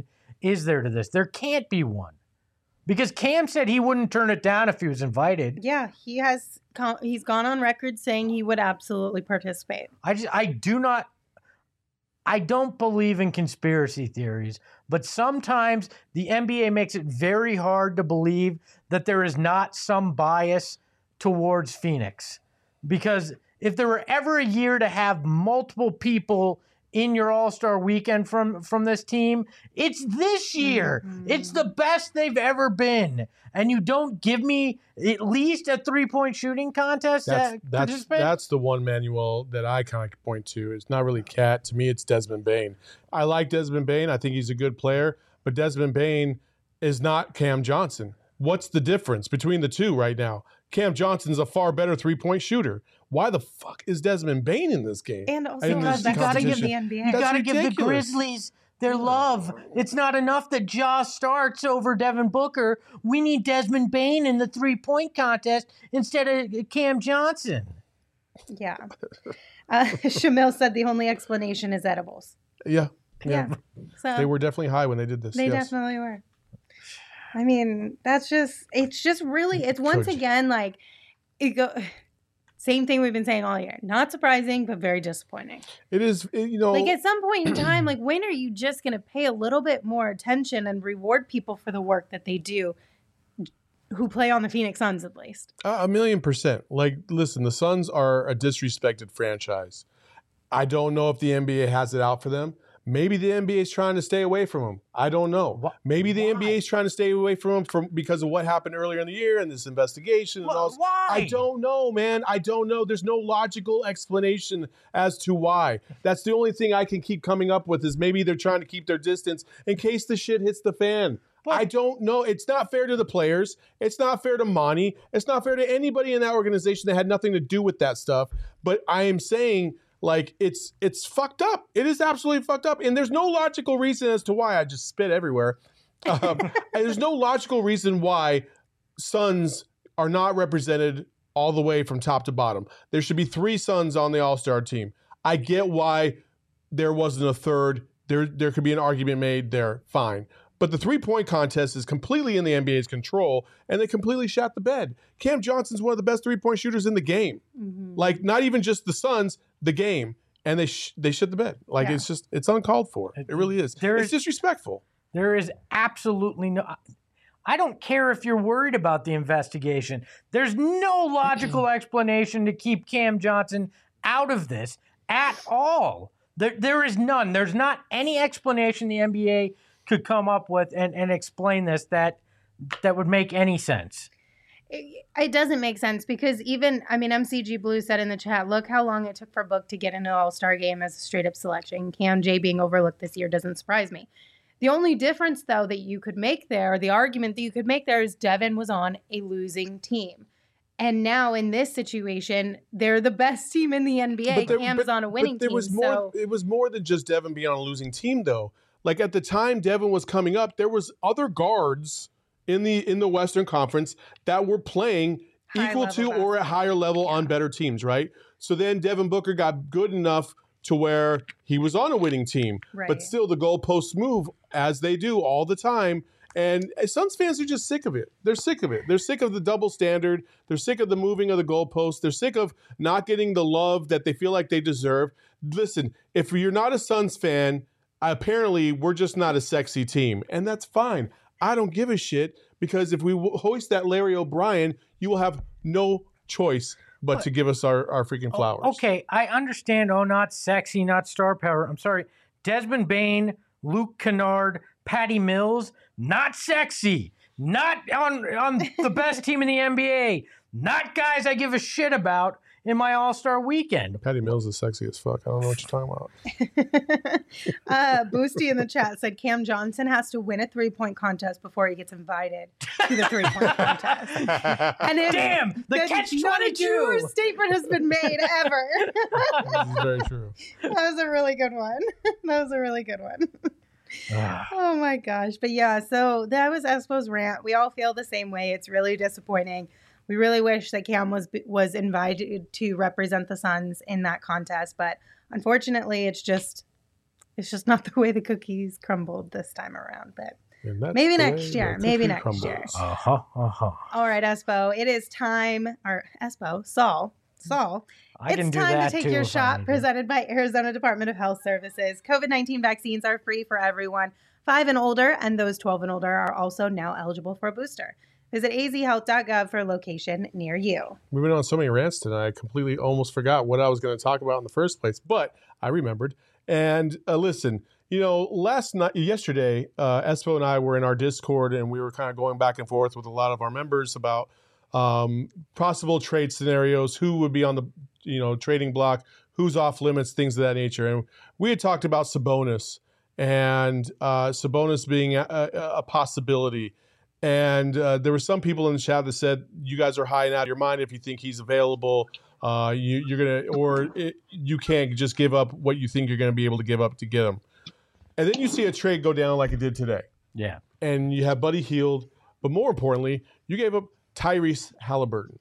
S3: is there to this? There can't be one. Because Cam said he wouldn't turn it down if he was invited.
S1: Yeah, he has. He's gone on record saying he would absolutely participate.
S3: I just, I do not, I don't believe in conspiracy theories, but sometimes the N B A makes it very hard to believe that there is not some bias towards Phoenix. Because if there were ever a year to have multiple people in your All-Star weekend from, from this team, it's this year. Mm-hmm. It's the best they've ever been. And you don't give me at least a three-point shooting contest
S2: that's,
S3: to
S2: that's,
S3: participate?
S2: That's the one, Manuel, that I kind of point to. It's not really Cat. To me, it's Desmond Bane. I like Desmond Bane. I think he's a good player. But Desmond Bane is not Cam Johnson. What's the difference between the two right now? Cam Johnson's a far better three-point shooter. Why the fuck is Desmond Bane in this game?
S1: And also,
S3: you got to give the
S1: N B A.
S3: You got to give the
S2: ridiculous.
S3: Grizzlies their love. It's not enough that Ja starts over Devin Booker. We need Desmond Bane in the three-point contest instead of Cam Johnson.
S1: Yeah. Uh, Shamil said the only explanation is edibles.
S2: Yeah. Yeah.
S1: Yeah. So
S2: They were definitely high when they did this.
S1: They
S2: yes.
S1: definitely were. I mean, that's just, it's just really, it's once
S2: Coach.
S1: again, like, it go, same thing we've been saying all year. Not surprising, but very disappointing.
S2: It is, it, you know.
S1: Like, at some point in time, like, when are you just going to pay a little bit more attention and reward people for the work that they do who play on the Phoenix Suns, at least?
S2: Uh, a million percent. Like, listen, the Suns are a disrespected franchise. I don't know if the N B A has it out for them. Maybe the N B A is trying to stay away from them. I don't know.
S3: What?
S2: Maybe the
S3: Why?
S2: N B A is trying to stay away from them from, because of what happened earlier in the year and this investigation. And
S3: Wh-
S2: all this.
S3: why?
S2: I don't know, man. I don't know. There's no logical explanation as to why. That's the only thing I can keep coming up with is maybe they're trying to keep their distance in case the shit hits the fan.
S3: But-
S2: I don't know. It's not fair to the players. It's not fair to Monty. It's not fair to anybody in that organization that had nothing to do with that stuff. But I am saying, like, it's it's fucked up. It is absolutely fucked up. And there's no logical reason as to why. I just spit everywhere. Um, and there's no logical reason why Suns are not represented all the way from top to bottom. There should be three Suns on the All-Star team. I get why there wasn't a third. There, there could be an argument made there. Fine. But the three-point contest is completely in the N B A's control, and they completely shot the bed. Cam Johnson's one of the best three-point shooters in the game.
S1: Mm-hmm.
S2: Like, not even just the Suns, the game. And they sh- they shit the bed. Like,
S1: Yeah.
S2: it's just, it's uncalled for. It really is.
S3: There
S2: It's
S3: is-
S2: disrespectful.
S3: There is absolutely no... I don't care if you're worried about the investigation. There's no logical explanation to keep Cam Johnson out of this at all. There, there is none. There's not any explanation the N B A could come up with and, and explain this that that would make any sense.
S1: It, it doesn't make sense because even, I mean, M C G Blue said in the chat, look how long it took for Book to get into the All-Star game as a straight-up selection. Cam J being overlooked this year doesn't surprise me. The only difference, though, that you could make there, the argument that you could make there is Devin was on a losing team. And now in this situation, they're the best team in the N B A.
S2: But there-
S1: Cam's
S2: but-
S1: on a winning
S2: but there
S1: team.
S2: was more,
S1: so
S2: It was more than just Devin being on a losing team, though. Like, at the time Devin was coming up, there was other guards in the in the Western Conference that were playing
S1: High
S2: equal
S1: level
S2: to or at higher level on better teams, right? So then Devin Booker got good enough to where he was on a winning team.
S1: Right.
S2: But still, the goalposts move as they do all the time. And Suns fans are just sick of it. They're sick of it. They're sick of the double standard. They're sick of the moving of the goalposts. They're sick of not getting the love that they feel like they deserve. Listen, if you're not a Suns fan, apparently we're just not a sexy team. And that's fine. I don't give a shit because if we hoist that Larry O'Brien, you will have no choice but to give us our, our freaking flowers.
S3: Oh, okay, I understand. Oh, not sexy, not star power. I'm sorry. Desmond Bane, Luke Kennard, Patty Mills, not sexy. Not on, on the best team in the N B A. Not guys I give a shit about in my All-Star weekend.
S2: Patty Mills is sexy as fuck. I don't know what you're talking about.
S1: uh, Boosty in the chat said Cam Johnson has to win a three-point contest before he gets invited to the three-point contest. And it,
S3: Damn, the catch
S1: not a truer
S3: twenty-two.
S1: statement has been made ever.
S2: This is very true.
S1: That was a really good one. That was a really good one.
S3: Ah.
S1: Oh my gosh. But yeah, so that was Espo's rant. We all feel the same way. It's really disappointing. We really wish that Cam was was invited to represent the Suns in that contest, but unfortunately, it's just It's just not the way the cookies crumbled this time around, but
S2: And that's
S1: maybe
S2: the
S1: next
S2: way
S1: year.
S2: the
S1: Maybe
S2: cookie
S1: next
S2: crumbles.
S1: year.
S3: Uh-huh, uh-huh.
S1: All right, Espo, it is time, or Espo, Saul, Saul.
S3: I
S1: it's
S3: can do
S1: time
S3: that
S1: to take
S3: too
S1: your
S3: if I
S1: shot
S3: need to.
S1: presented by Arizona Department of Health Services. COVID nineteen vaccines are free for everyone five and older, and those twelve and older are also now eligible for a booster. Visit a z health dot gov for a location near you.
S2: We've been on so many rants tonight, I completely almost forgot what I was going to talk about in the first place, but I remembered. And uh, listen, you know, last night, yesterday, uh, Espo and I were in our Discord, and we were kind of going back and forth with a lot of our members about um, possible trade scenarios, who would be on the, you know, trading block, who's off limits, things of that nature. And we had talked about Sabonis and uh, Sabonis being a, a, a possibility. And uh, there were some people in the chat that said, you guys are high and out of your mind if you think he's available. Uh, you, you're going to, or it, you can't just give up what you think you're going to be able to give up to get him. And then you see a trade go down like it did today.
S3: Yeah.
S2: And you have Buddy Hield. But more importantly, you gave up Tyrese Halliburton.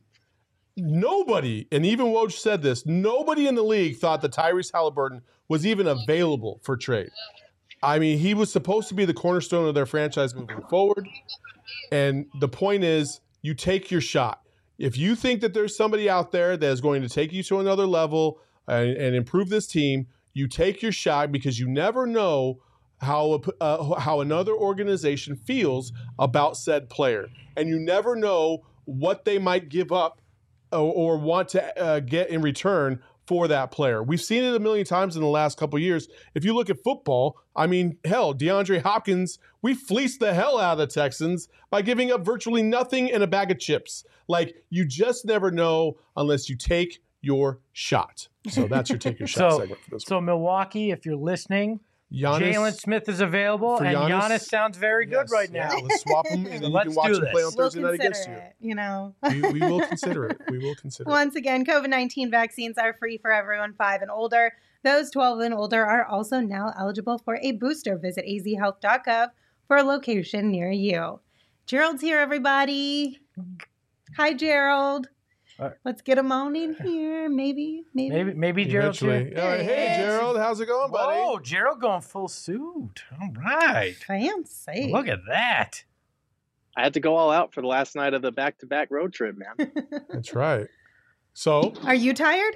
S2: Nobody, and even Woj said this, nobody in the league thought that Tyrese Halliburton was even available for trade. I mean, he was supposed to be the cornerstone of their franchise moving forward. And the point is, you take your shot. If you think that there's somebody out there that is going to take you to another level and, and improve this team, you take your shot, because you never know how a, uh, how another organization feels about said player. And you never know what they might give up or, or want to uh, get in return for that player. We've seen it a million times in the last couple of years. If you look at football, I mean, hell, DeAndre Hopkins, we fleeced the hell out of the Texans by giving up virtually nothing and a bag of chips. Like, you just never know unless you take your shot. So that's your take your shot
S3: So,
S2: segment for this
S3: so
S2: one.
S3: Milwaukee, if you're listening,
S2: Giannis,
S3: Jalen Smith is available,
S2: for
S3: and
S2: Giannis,
S3: Giannis sounds very good
S2: yes,
S3: right now.
S2: Yeah, let's swap them, and
S3: So
S2: then you
S3: let's
S2: can watch
S3: do
S2: him play
S3: this.
S2: on
S1: We'll
S2: Thursday night
S1: consider
S2: against you.
S1: it, you know.
S2: We, we will consider it. We will consider it.
S1: Once again, COVID nineteen vaccines are free for everyone five and older. Those twelve and older are also now eligible for a booster. Visit a z health dot gov for a location near you. Gerald's here, everybody. Hi, Gerald.
S3: Uh,
S1: Let's get him on in here. Maybe, maybe.
S3: Maybe, maybe Gerald's here.
S2: Eventually. All right. Hey,
S1: Hey.
S2: Gerald, how's it going, buddy?
S3: Oh, Gerald going full suit. All right.
S1: Fancy.
S3: Look at that.
S5: I had to go all out for the last night of the back-to-back road trip, man.
S2: That's right. So,
S1: Are you tired?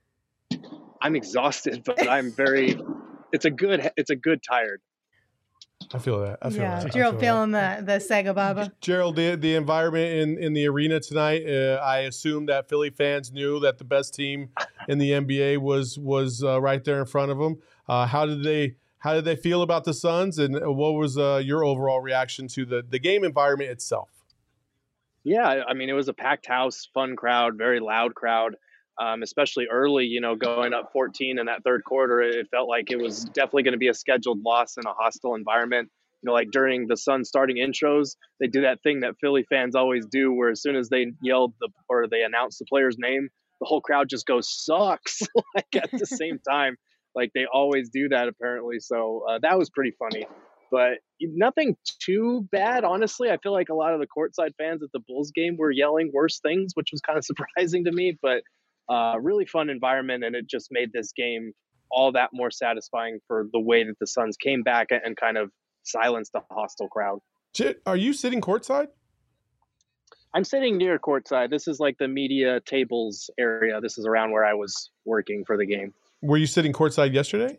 S5: I'm exhausted, but I'm very. It's a good. It's a good tired.
S2: I feel that. I feel
S1: yeah,
S2: that. I
S1: Gerald
S2: feel that.
S1: feeling the, the Sega Baba.
S2: Gerald, the, the environment in, in the arena tonight, uh, I assume that Philly fans knew that the best team in the N B A was was uh, right there in front of them. Uh, how did they how did they feel about the Suns, and what was uh, your overall reaction to the, the game environment itself?
S5: Yeah, I mean, it was a packed house, fun crowd, very loud crowd, um, especially early, you know, going up fourteen in that third quarter. It felt like it was definitely going to be a scheduled loss in a hostile environment. You know, like during the Suns starting intros, they do that thing that Philly fans always do, where as soon as they yelled the or they announced the player's name, the whole crowd just goes, sucks, like at the same time. Like they always do that, apparently. So uh, that was pretty funny. But nothing too bad, honestly. I feel like a lot of the courtside fans at the Bulls game were yelling worse things, which was kind of surprising to me. But uh, really fun environment, and it just made this game all that more satisfying for the way that the Suns came back and kind of silenced the hostile crowd.
S2: Chit, are you sitting courtside?
S5: I'm sitting near courtside. This is like the media tables area. This is around where I was working for the game.
S2: Were you sitting courtside yesterday?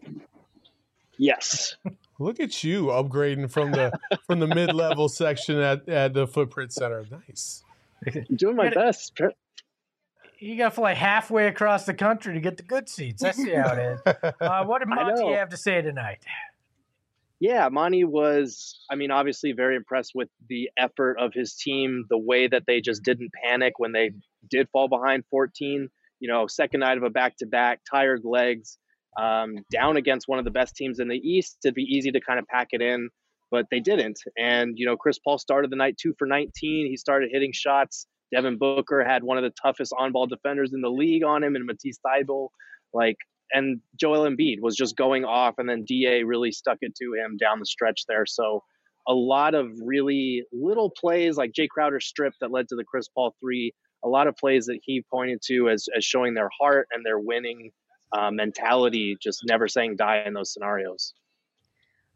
S5: Yes.
S2: Look at you upgrading from the from the mid level section at, at the Footprint Center. Nice.
S5: I'm doing my best.
S3: You got to fly halfway across the country to get the good seats. That's how it is. Uh, what did
S5: I
S3: Monty
S5: know.
S3: have to say tonight?
S5: Yeah, Monty was, I mean, obviously very impressed with the effort of his team, the way that they just didn't panic when they did fall behind fourteen. You know, second night of a back-to-back, tired legs, um, down against one of the best teams in the East. It'd be easy to kind of pack it in, but they didn't. And, you know, Chris Paul started the night two for nineteen. He started hitting shots. Devin Booker had one of the toughest on-ball defenders in the league on him, and Matisse Thybulle. Like, and Joel Embiid was just going off, and then D A really stuck it to him down the stretch there. So a lot of really little plays, like Jay Crowder's strip that led to the Chris Paul three, a lot of plays that he pointed to as, as showing their heart and their winning uh, mentality, just never saying die in those scenarios.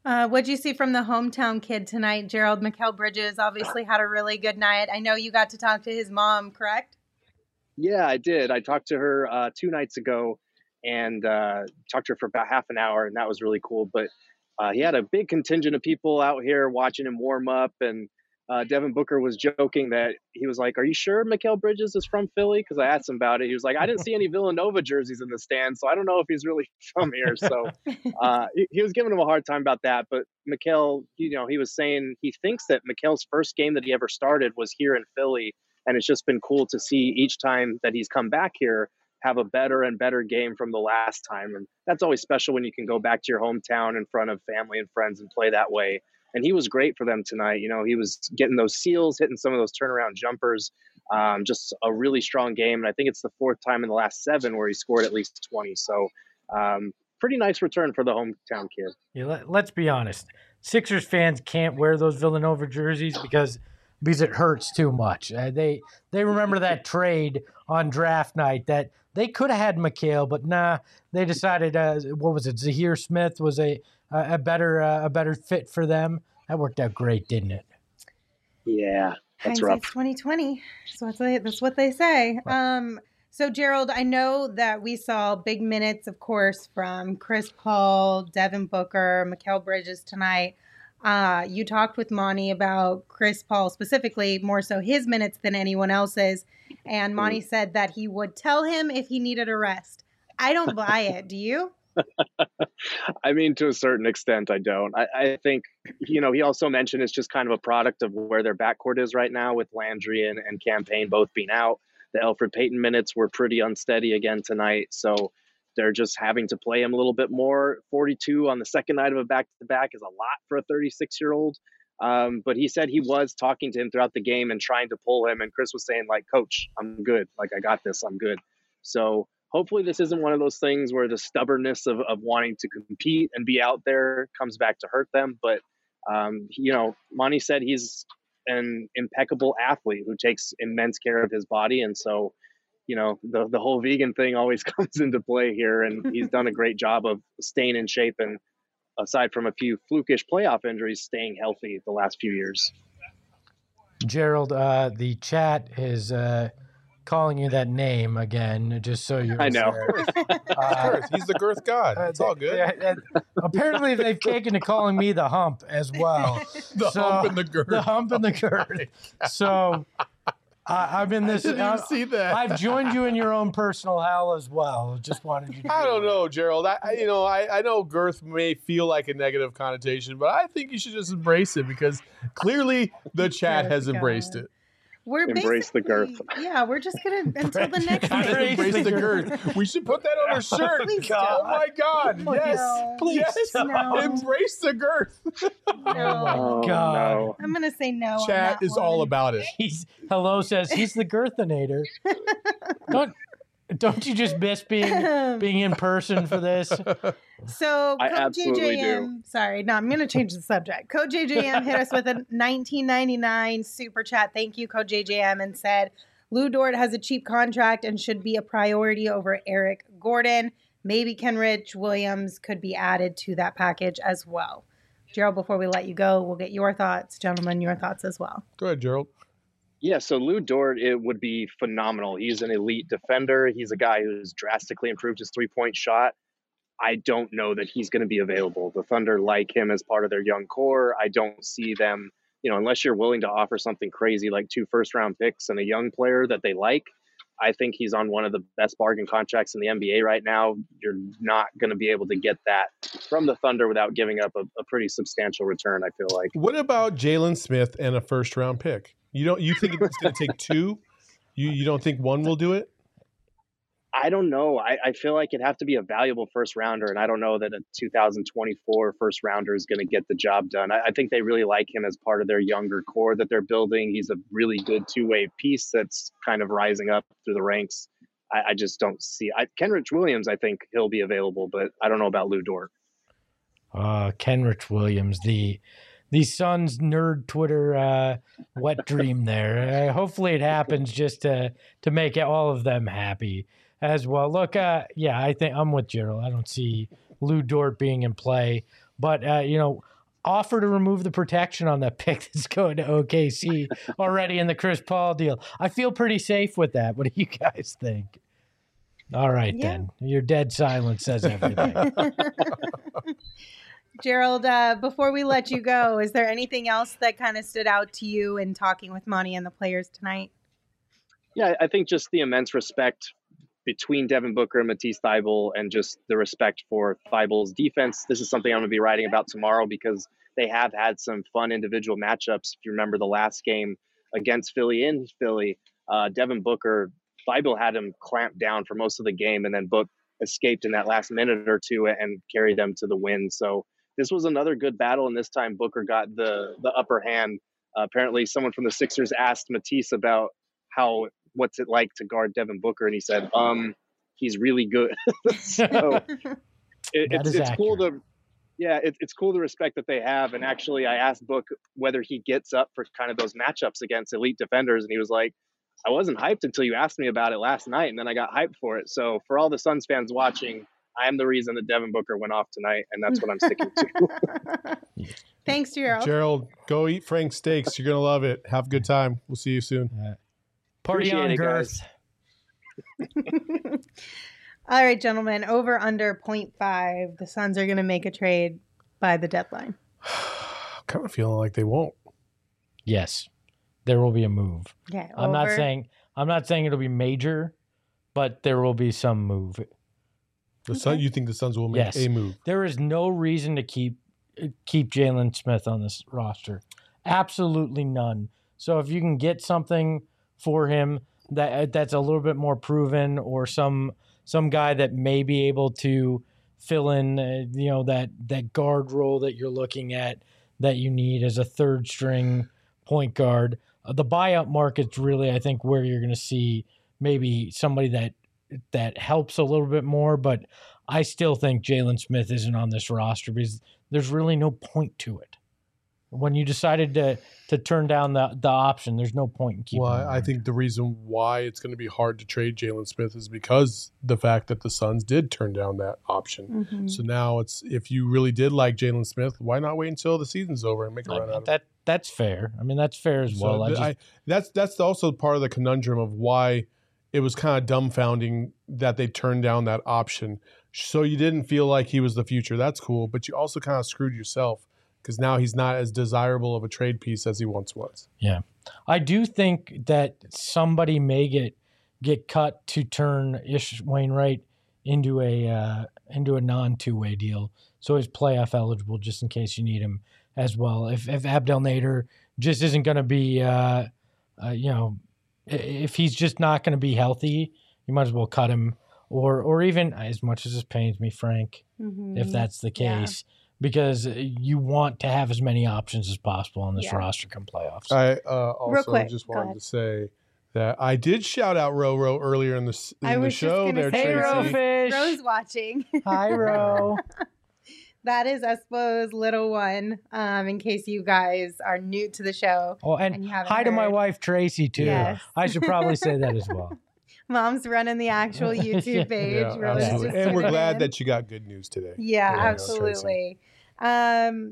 S1: Uh, what'd you see from the hometown kid tonight, Gerald? Mikal Bridges obviously had a really good night. I know you got to talk to his mom, correct?
S5: Yeah, I did. I talked to her uh, two nights ago and uh, talked to her for about half an hour, and that was really cool. But uh, he had a big contingent of people out here watching him warm up, and uh, Devin Booker was joking that he was like, "Are you sure Mikal Bridges is from Philly?" Because I asked him about it. He was like, "I didn't see any Villanova jerseys in the stands, so I don't know if he's really from here." So uh, he, he was giving him a hard time about that. But Mikal, you know, he was saying he thinks that Mikal's first game that he ever started was here in Philly, and it's just been cool to see each time that he's come back here have a better and better game from the last time. And that's always special when you can go back to your hometown in front of family and friends and play that way. And he was great for them tonight. You know, he was getting those seals, hitting some of those turnaround jumpers, um, just a really strong game. And I think it's the fourth time in the last seven where he scored at least twenty. So um, pretty nice return for the hometown kid.
S3: Yeah, let, let's be honest. Sixers fans can't wear those Villanova jerseys because because it hurts too much. Uh, they they remember that trade on draft night that they could have had Mikal, but nah, they decided uh, what was it? Zahir Smith was a a, a better uh, a better fit for them. That worked out great, didn't it?
S5: Yeah, that's rough.
S1: Hindsight's twenty twenty. That's what they, that's what they say. Um, so Gerald, I know that we saw big minutes, of course, from Chris Paul, Devin Booker, Mikal Bridges tonight. Uh, you talked with Monty about Chris Paul specifically, more so his minutes than anyone else's. And Monty said that he would tell him if he needed a rest. I don't buy it. Do you?
S5: I mean, to a certain extent, I don't. I, I think, you know, he also mentioned it's just kind of a product of where their backcourt is right now with Landry and, and Campaign both being out. The Elfrid Payton minutes were pretty unsteady again tonight. So they're just having to play him a little bit more. forty-two on the second night of a back-to-back is a lot for a thirty-six-year-old. Um, but he said he was talking to him throughout the game and trying to pull him. And Chris was saying, like, "Coach, I'm good. Like, I got this. I'm good." So hopefully this isn't one of those things where the stubbornness of, of wanting to compete and be out there comes back to hurt them. But, um, you know, Monty said he's an impeccable athlete who takes immense care of his body. And so, you know, the, the whole vegan thing always comes into play here. And he's done a great job of staying in shape and, aside from a few flukish playoff injuries, staying healthy the last few years.
S3: Gerald, uh, the chat is uh, calling you that name again, just so you're
S5: I know.
S2: Uh, He's the girth god. It's all good.
S3: Yeah, apparently, they've taken to calling me the hump as well.
S2: The
S3: So-
S2: hump and the girth.
S3: The hump and the girth. So I I'm in this.
S2: I didn't even
S3: uh,
S2: see that.
S3: I've joined you in your own personal hell as well. Just wanted you to.
S2: I
S3: be
S2: don't
S3: aware.
S2: know, Gerald. I, I you know, I, I know girth may feel like a negative connotation, but I think you should just embrace it because clearly the chat
S1: Good
S2: has embraced
S1: God.
S2: it.
S1: We're
S5: Embrace the girth.
S1: basically- Yeah, we're just gonna until the next
S3: Embrace
S1: week.
S2: Embrace
S3: the
S2: the
S3: girth.
S2: girth. We should put that on our shirt.
S1: Please
S2: Oh
S1: don't.
S2: my God!
S1: Please
S2: Yes,
S1: don't.
S3: Please
S2: yes.
S3: don't.
S1: No.
S2: Embrace the girth.
S1: No.
S5: Oh,
S3: God.
S5: no.
S1: I'm gonna say no. on
S2: Chat
S1: that
S2: is all
S1: one.
S2: about it.
S3: He's hello says he's the girthinator. Don't don't you just miss being being in person for this?
S1: So
S5: I
S1: Code
S5: absolutely
S1: J J M, sorry, no, I'm going to change the subject. Code J J M hit us with a nineteen ninety-nine super chat. Thank you, Code J J M, and said, Lou Dort has a cheap contract and should be a priority over Eric Gordon. Maybe Kenrich Williams could be added to that package as well. Gerald, before we let you go, we'll get your thoughts. Gentlemen, your thoughts as well.
S2: Go ahead, Gerald.
S5: Yeah, so Lou Dort, it would be phenomenal. He's an elite defender. He's a guy who's drastically improved his three-point shot. I don't know that he's going to be available. The Thunder like him as part of their young core. I don't see them, you know, unless you're willing to offer something crazy like two first-round picks and a young player that they like. I think he's on one of the best bargain contracts in the N B A right now. You're not going to be able to get that from the Thunder without giving up a, a pretty substantial return, I feel like.
S2: What about Jalen Smith and a first round pick? You don't you think it's going to take two? You you don't think one will do it?
S5: I don't know. I, I feel like it'd have to be a valuable first rounder, and I don't know that a two thousand twenty-four first rounder is going to get the job done. I, I think they really like him as part of their younger core that they're building. He's a really good two-way piece that's kind of rising up through the ranks. I, I just don't see. I, Kenrich Williams, I think he'll be available, but I don't know about Lou Dort.
S3: Uh, Kenrich Williams, the the Suns nerd Twitter uh, wet dream there. Uh, hopefully it happens just to to make all of them happy as well. Look, uh, yeah, I think I'm with Gerald. I don't see Lou Dort being in play, but uh, you know, offer to remove the protection on that pick that's going to O K C already in the Chris Paul deal. I feel pretty safe with that. What do you guys think? All right, yeah. then. Your dead silence says everything.
S1: Gerald, uh, before we let you go, is there anything else that kind of stood out to you in talking with Monty and the players tonight?
S5: Yeah, I think just the immense respect between Devin Booker and Matisse Thybulle, and just the respect for Thybulle's defense. This is something I'm going to be writing about tomorrow because they have had some fun individual matchups. If you remember the last game against Philly in Philly, uh, Devin Booker, Thybulle had him clamped down for most of the game, and then Book escaped in that last minute or two and carried them to the win. So this was another good battle, and this time Booker got the the upper hand. Uh, apparently, someone from the Sixers asked Matisse about how what's it like to guard Devin Booker, and he said, "Um, he's really good." so it, it's it's cool to, yeah, it, it's cool the respect that they have. And actually, I asked Book whether he gets up for kind of those matchups against elite defenders, and he was like, "I wasn't hyped until you asked me about it last night, and then I got hyped for it." So for all the Suns fans watching, I am the reason that Devin Booker went off tonight, and that's what I'm sticking to.
S1: Thanks, Gerald.
S2: Gerald, go eat Frank's steaks. You're going to love it. Have a good time. We'll see you soon.
S3: Uh, party
S5: Appreciate
S3: on,
S5: it,
S3: Girth.
S1: All right, gentlemen, over under point five. The Suns are going to make a trade by the deadline.
S2: kind of feeling like they won't.
S3: Yes, there will be a move.
S1: Okay,
S3: I'm not
S1: over.
S3: saying I'm not saying it'll be major, but there will be some move.
S2: The
S1: Okay.
S2: Sun, you think the Suns will make
S3: Yes.
S2: a move?
S3: There is no reason to keep keep Jalen Smith on this roster. Absolutely none. So if you can get something for him that that's a little bit more proven, or some some guy that may be able to fill in, uh, you know, that that guard role that you're looking at that you need as a third string point guard. Uh, the buyout market's really, I think, where you're going to see maybe somebody that that helps a little bit more, but I still think Jalen Smith isn't on this roster because there's really no point to it. When you decided to to turn down the, the option, there's no point in keeping
S2: Well,
S3: him
S2: I
S3: around.
S2: think the reason why it's going to be hard to trade Jalen Smith is because the fact that the Suns did turn down that option.
S1: Mhm.
S2: So now it's, if you really did like Jalen Smith, why not wait until the season's over and make a
S3: I
S2: run
S3: mean,
S2: out of it?
S3: that that's fair. I mean, that's fair as well.
S2: So
S3: I
S2: th-
S3: just,
S2: I, that's that's also part of the conundrum of why it was kind of dumbfounding that they turned down that option. So you didn't feel like he was the future. That's cool, but you also kind of screwed yourself because now he's not as desirable of a trade piece as he once was.
S3: yeah, I do think that somebody may get get cut to turn Ish Wainwright into a uh, into a non two way deal, so he's playoff eligible just in case you need him as well. If if Abdel Nader just isn't going to be, uh, uh, you know, i- if he's just not going to be healthy, you might as well cut him. Or or even, as much as this pains me, Frank,
S1: Mhm.
S3: if that's the
S1: Yeah.
S3: case, because you want to have as many options as possible on this
S1: Yeah.
S3: roster come playoffs.
S2: I uh, also
S1: quick,
S2: just
S1: go
S2: wanted
S1: ahead.
S2: to say that I did shout out Roro earlier in the, s- in
S1: I
S2: the
S1: was just
S2: show
S1: gonna
S2: there,
S1: say,
S3: hey,
S2: Tracy.
S3: Rofish.
S1: Rose watching.
S3: Hi, Ro.
S1: That is Espo's little one, um, in case you guys are new to the show.
S3: Oh, and,
S1: And you haven't
S3: hi to my
S1: heard.
S3: wife, Tracy, too.
S1: Yes.
S3: I should probably say that as well.
S1: Mom's running the actual YouTube page.
S2: Yeah,
S1: Rose is
S2: absolutely.
S1: just
S2: And we're
S1: tuning
S2: glad
S1: in.
S2: that you got good news today.
S1: Yeah,
S2: Yeah,
S1: absolutely. Um,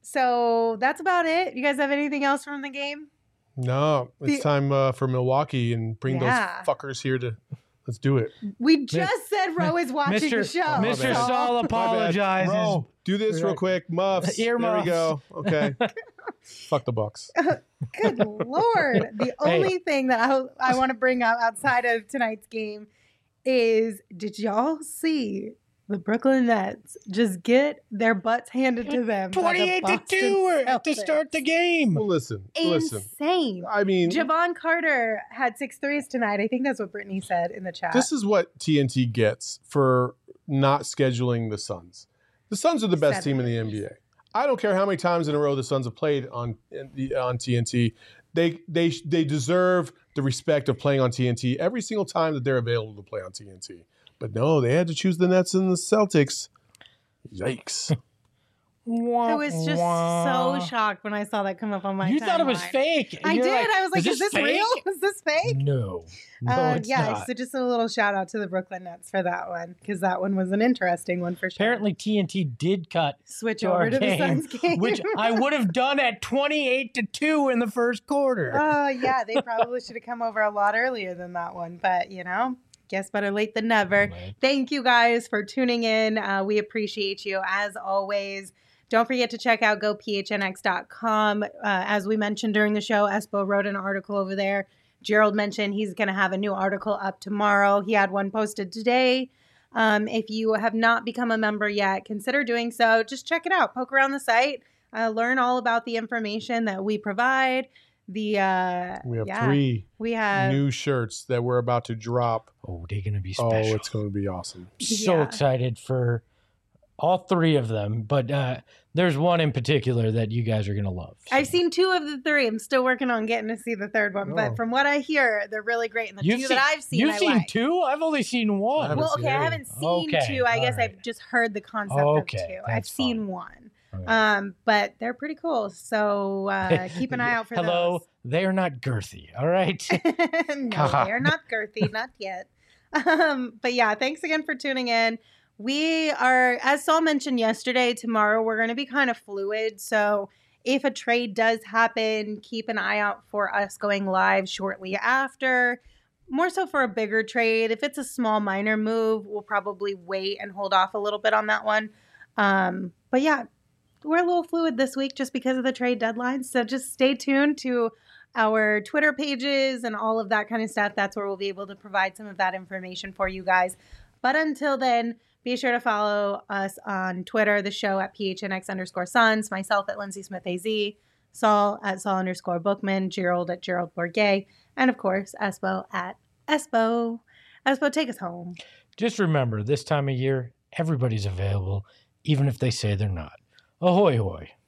S1: so that's about it. You guys have anything else from the game?
S2: No, it's
S1: The-
S2: time uh, for Milwaukee and bring
S1: Yeah.
S2: those fuckers here to let's do it.
S1: We just said Ro is watching
S3: Mister
S1: the show.
S3: Mister
S2: bad.
S3: Saul
S2: My bad.
S3: apologizes.
S2: Bro, do this real quick. Muffs. There we
S3: Earmuffs.
S2: go. Okay. Fuck the Bucks.
S1: Good Lord. The
S3: Hey.
S1: only thing that I, I want to bring up outside of tonight's game is, did y'all see the Brooklyn Nets just get their butts handed to them? by the
S3: twenty-eight to
S1: Boston
S3: two to
S1: Celtics?
S3: start the game.
S2: Well, listen. Listen.
S1: Insane.
S2: I mean,
S1: Javon Carter had six threes tonight. I think that's what Brittany said in the chat.
S2: this is what T N T gets for not scheduling the Suns. The Suns are the best
S1: Seven
S2: team in the N B A. I don't care how many times in a row the Suns have played on on T N T. They they they deserve the respect of playing on T N T every single time that they're available to play on T N T. But no, they had to choose the Nets and the Celtics. Yikes.
S3: Wah,
S1: I was just
S3: wah.
S1: so shocked when I saw that come up on my
S3: You thought it was
S1: timeline.
S3: fake.
S1: I
S3: You're
S1: did.
S3: like,
S1: I was like, is,
S3: this
S1: this real? Is this fake?
S3: No. No,
S1: Uh,
S3: it's
S1: yeah,
S3: not.
S1: so just a little shout out to the Brooklyn Nets for that one, because that one was an interesting one for sure.
S3: Apparently, T N T did cut
S1: Switch
S3: to
S1: over
S3: our
S1: to
S3: game,
S1: the Suns game.
S3: which I would have done at twenty-eight to two in the first quarter.
S1: Oh, yeah, they probably should have come over a lot earlier than that one. But, you know, guess better late than never.
S3: Right.
S1: Thank you guys for tuning in. Uh, we appreciate you as always. Don't forget to check out go p h n x dot com. Uh, as we mentioned during the show, Espo wrote an article over there. Gerald mentioned he's going to have a new article up tomorrow. He had one posted today. Um, if you have not become a member yet, consider doing so. Just check it out. Poke around the site. Uh, learn all about the information that we provide. The uh,
S2: We have
S1: yeah,
S2: three
S1: we have
S2: new shirts that we're about to drop.
S3: Oh, they're going to be
S2: Oh,
S3: special.
S2: it's going to be awesome.
S3: So
S1: Yeah.
S3: excited for all three of them, but uh, there's one in particular that you guys are going to love. So.
S1: I've seen two of the three. I'm still working on getting to see the third one,
S2: Oh.
S1: but from what I hear, they're really great. And the
S3: You've
S1: two
S3: seen-
S1: that I've seen,
S3: You've
S1: I
S3: seen
S1: like.
S3: two? I've only seen one.
S2: I haven't
S1: Well,
S2: seen
S1: okay, I
S2: any.
S1: haven't seen
S3: Okay,
S1: two. I
S3: all
S1: guess
S3: right.
S1: I've just heard the concept
S3: Okay,
S1: of two. I've
S3: that's
S1: seen
S3: fine.
S1: one.
S3: Okay.
S1: Um, but they're pretty cool. So uh, keep an eye out for
S3: Hello, they are not girthy. All right.
S1: those. No, they're not girthy, not yet. Um, but yeah, thanks again for tuning in. We are, as Saul mentioned yesterday, tomorrow we're going to be kind of fluid. So if a trade does happen, keep an eye out for us going live shortly after. More so for a bigger trade. If it's a small minor move, we'll probably wait and hold off a little bit on that one. Um, but yeah, we're a little fluid this week just because of the trade deadline. So just stay tuned to our Twitter pages and all of that kind of stuff. That's where we'll be able to provide some of that information for you guys. But until then, be sure to follow us on Twitter, the show at P H N X underscore Suns, myself at Lindsay Smith A Z, Saul at Saul underscore Bookman, Gerald at Gerald Bourget, and of course, Espo at Espo. Espo, take us home.
S3: Just remember, this time of year, everybody's available, even if they say they're not. Ahoy, hoy.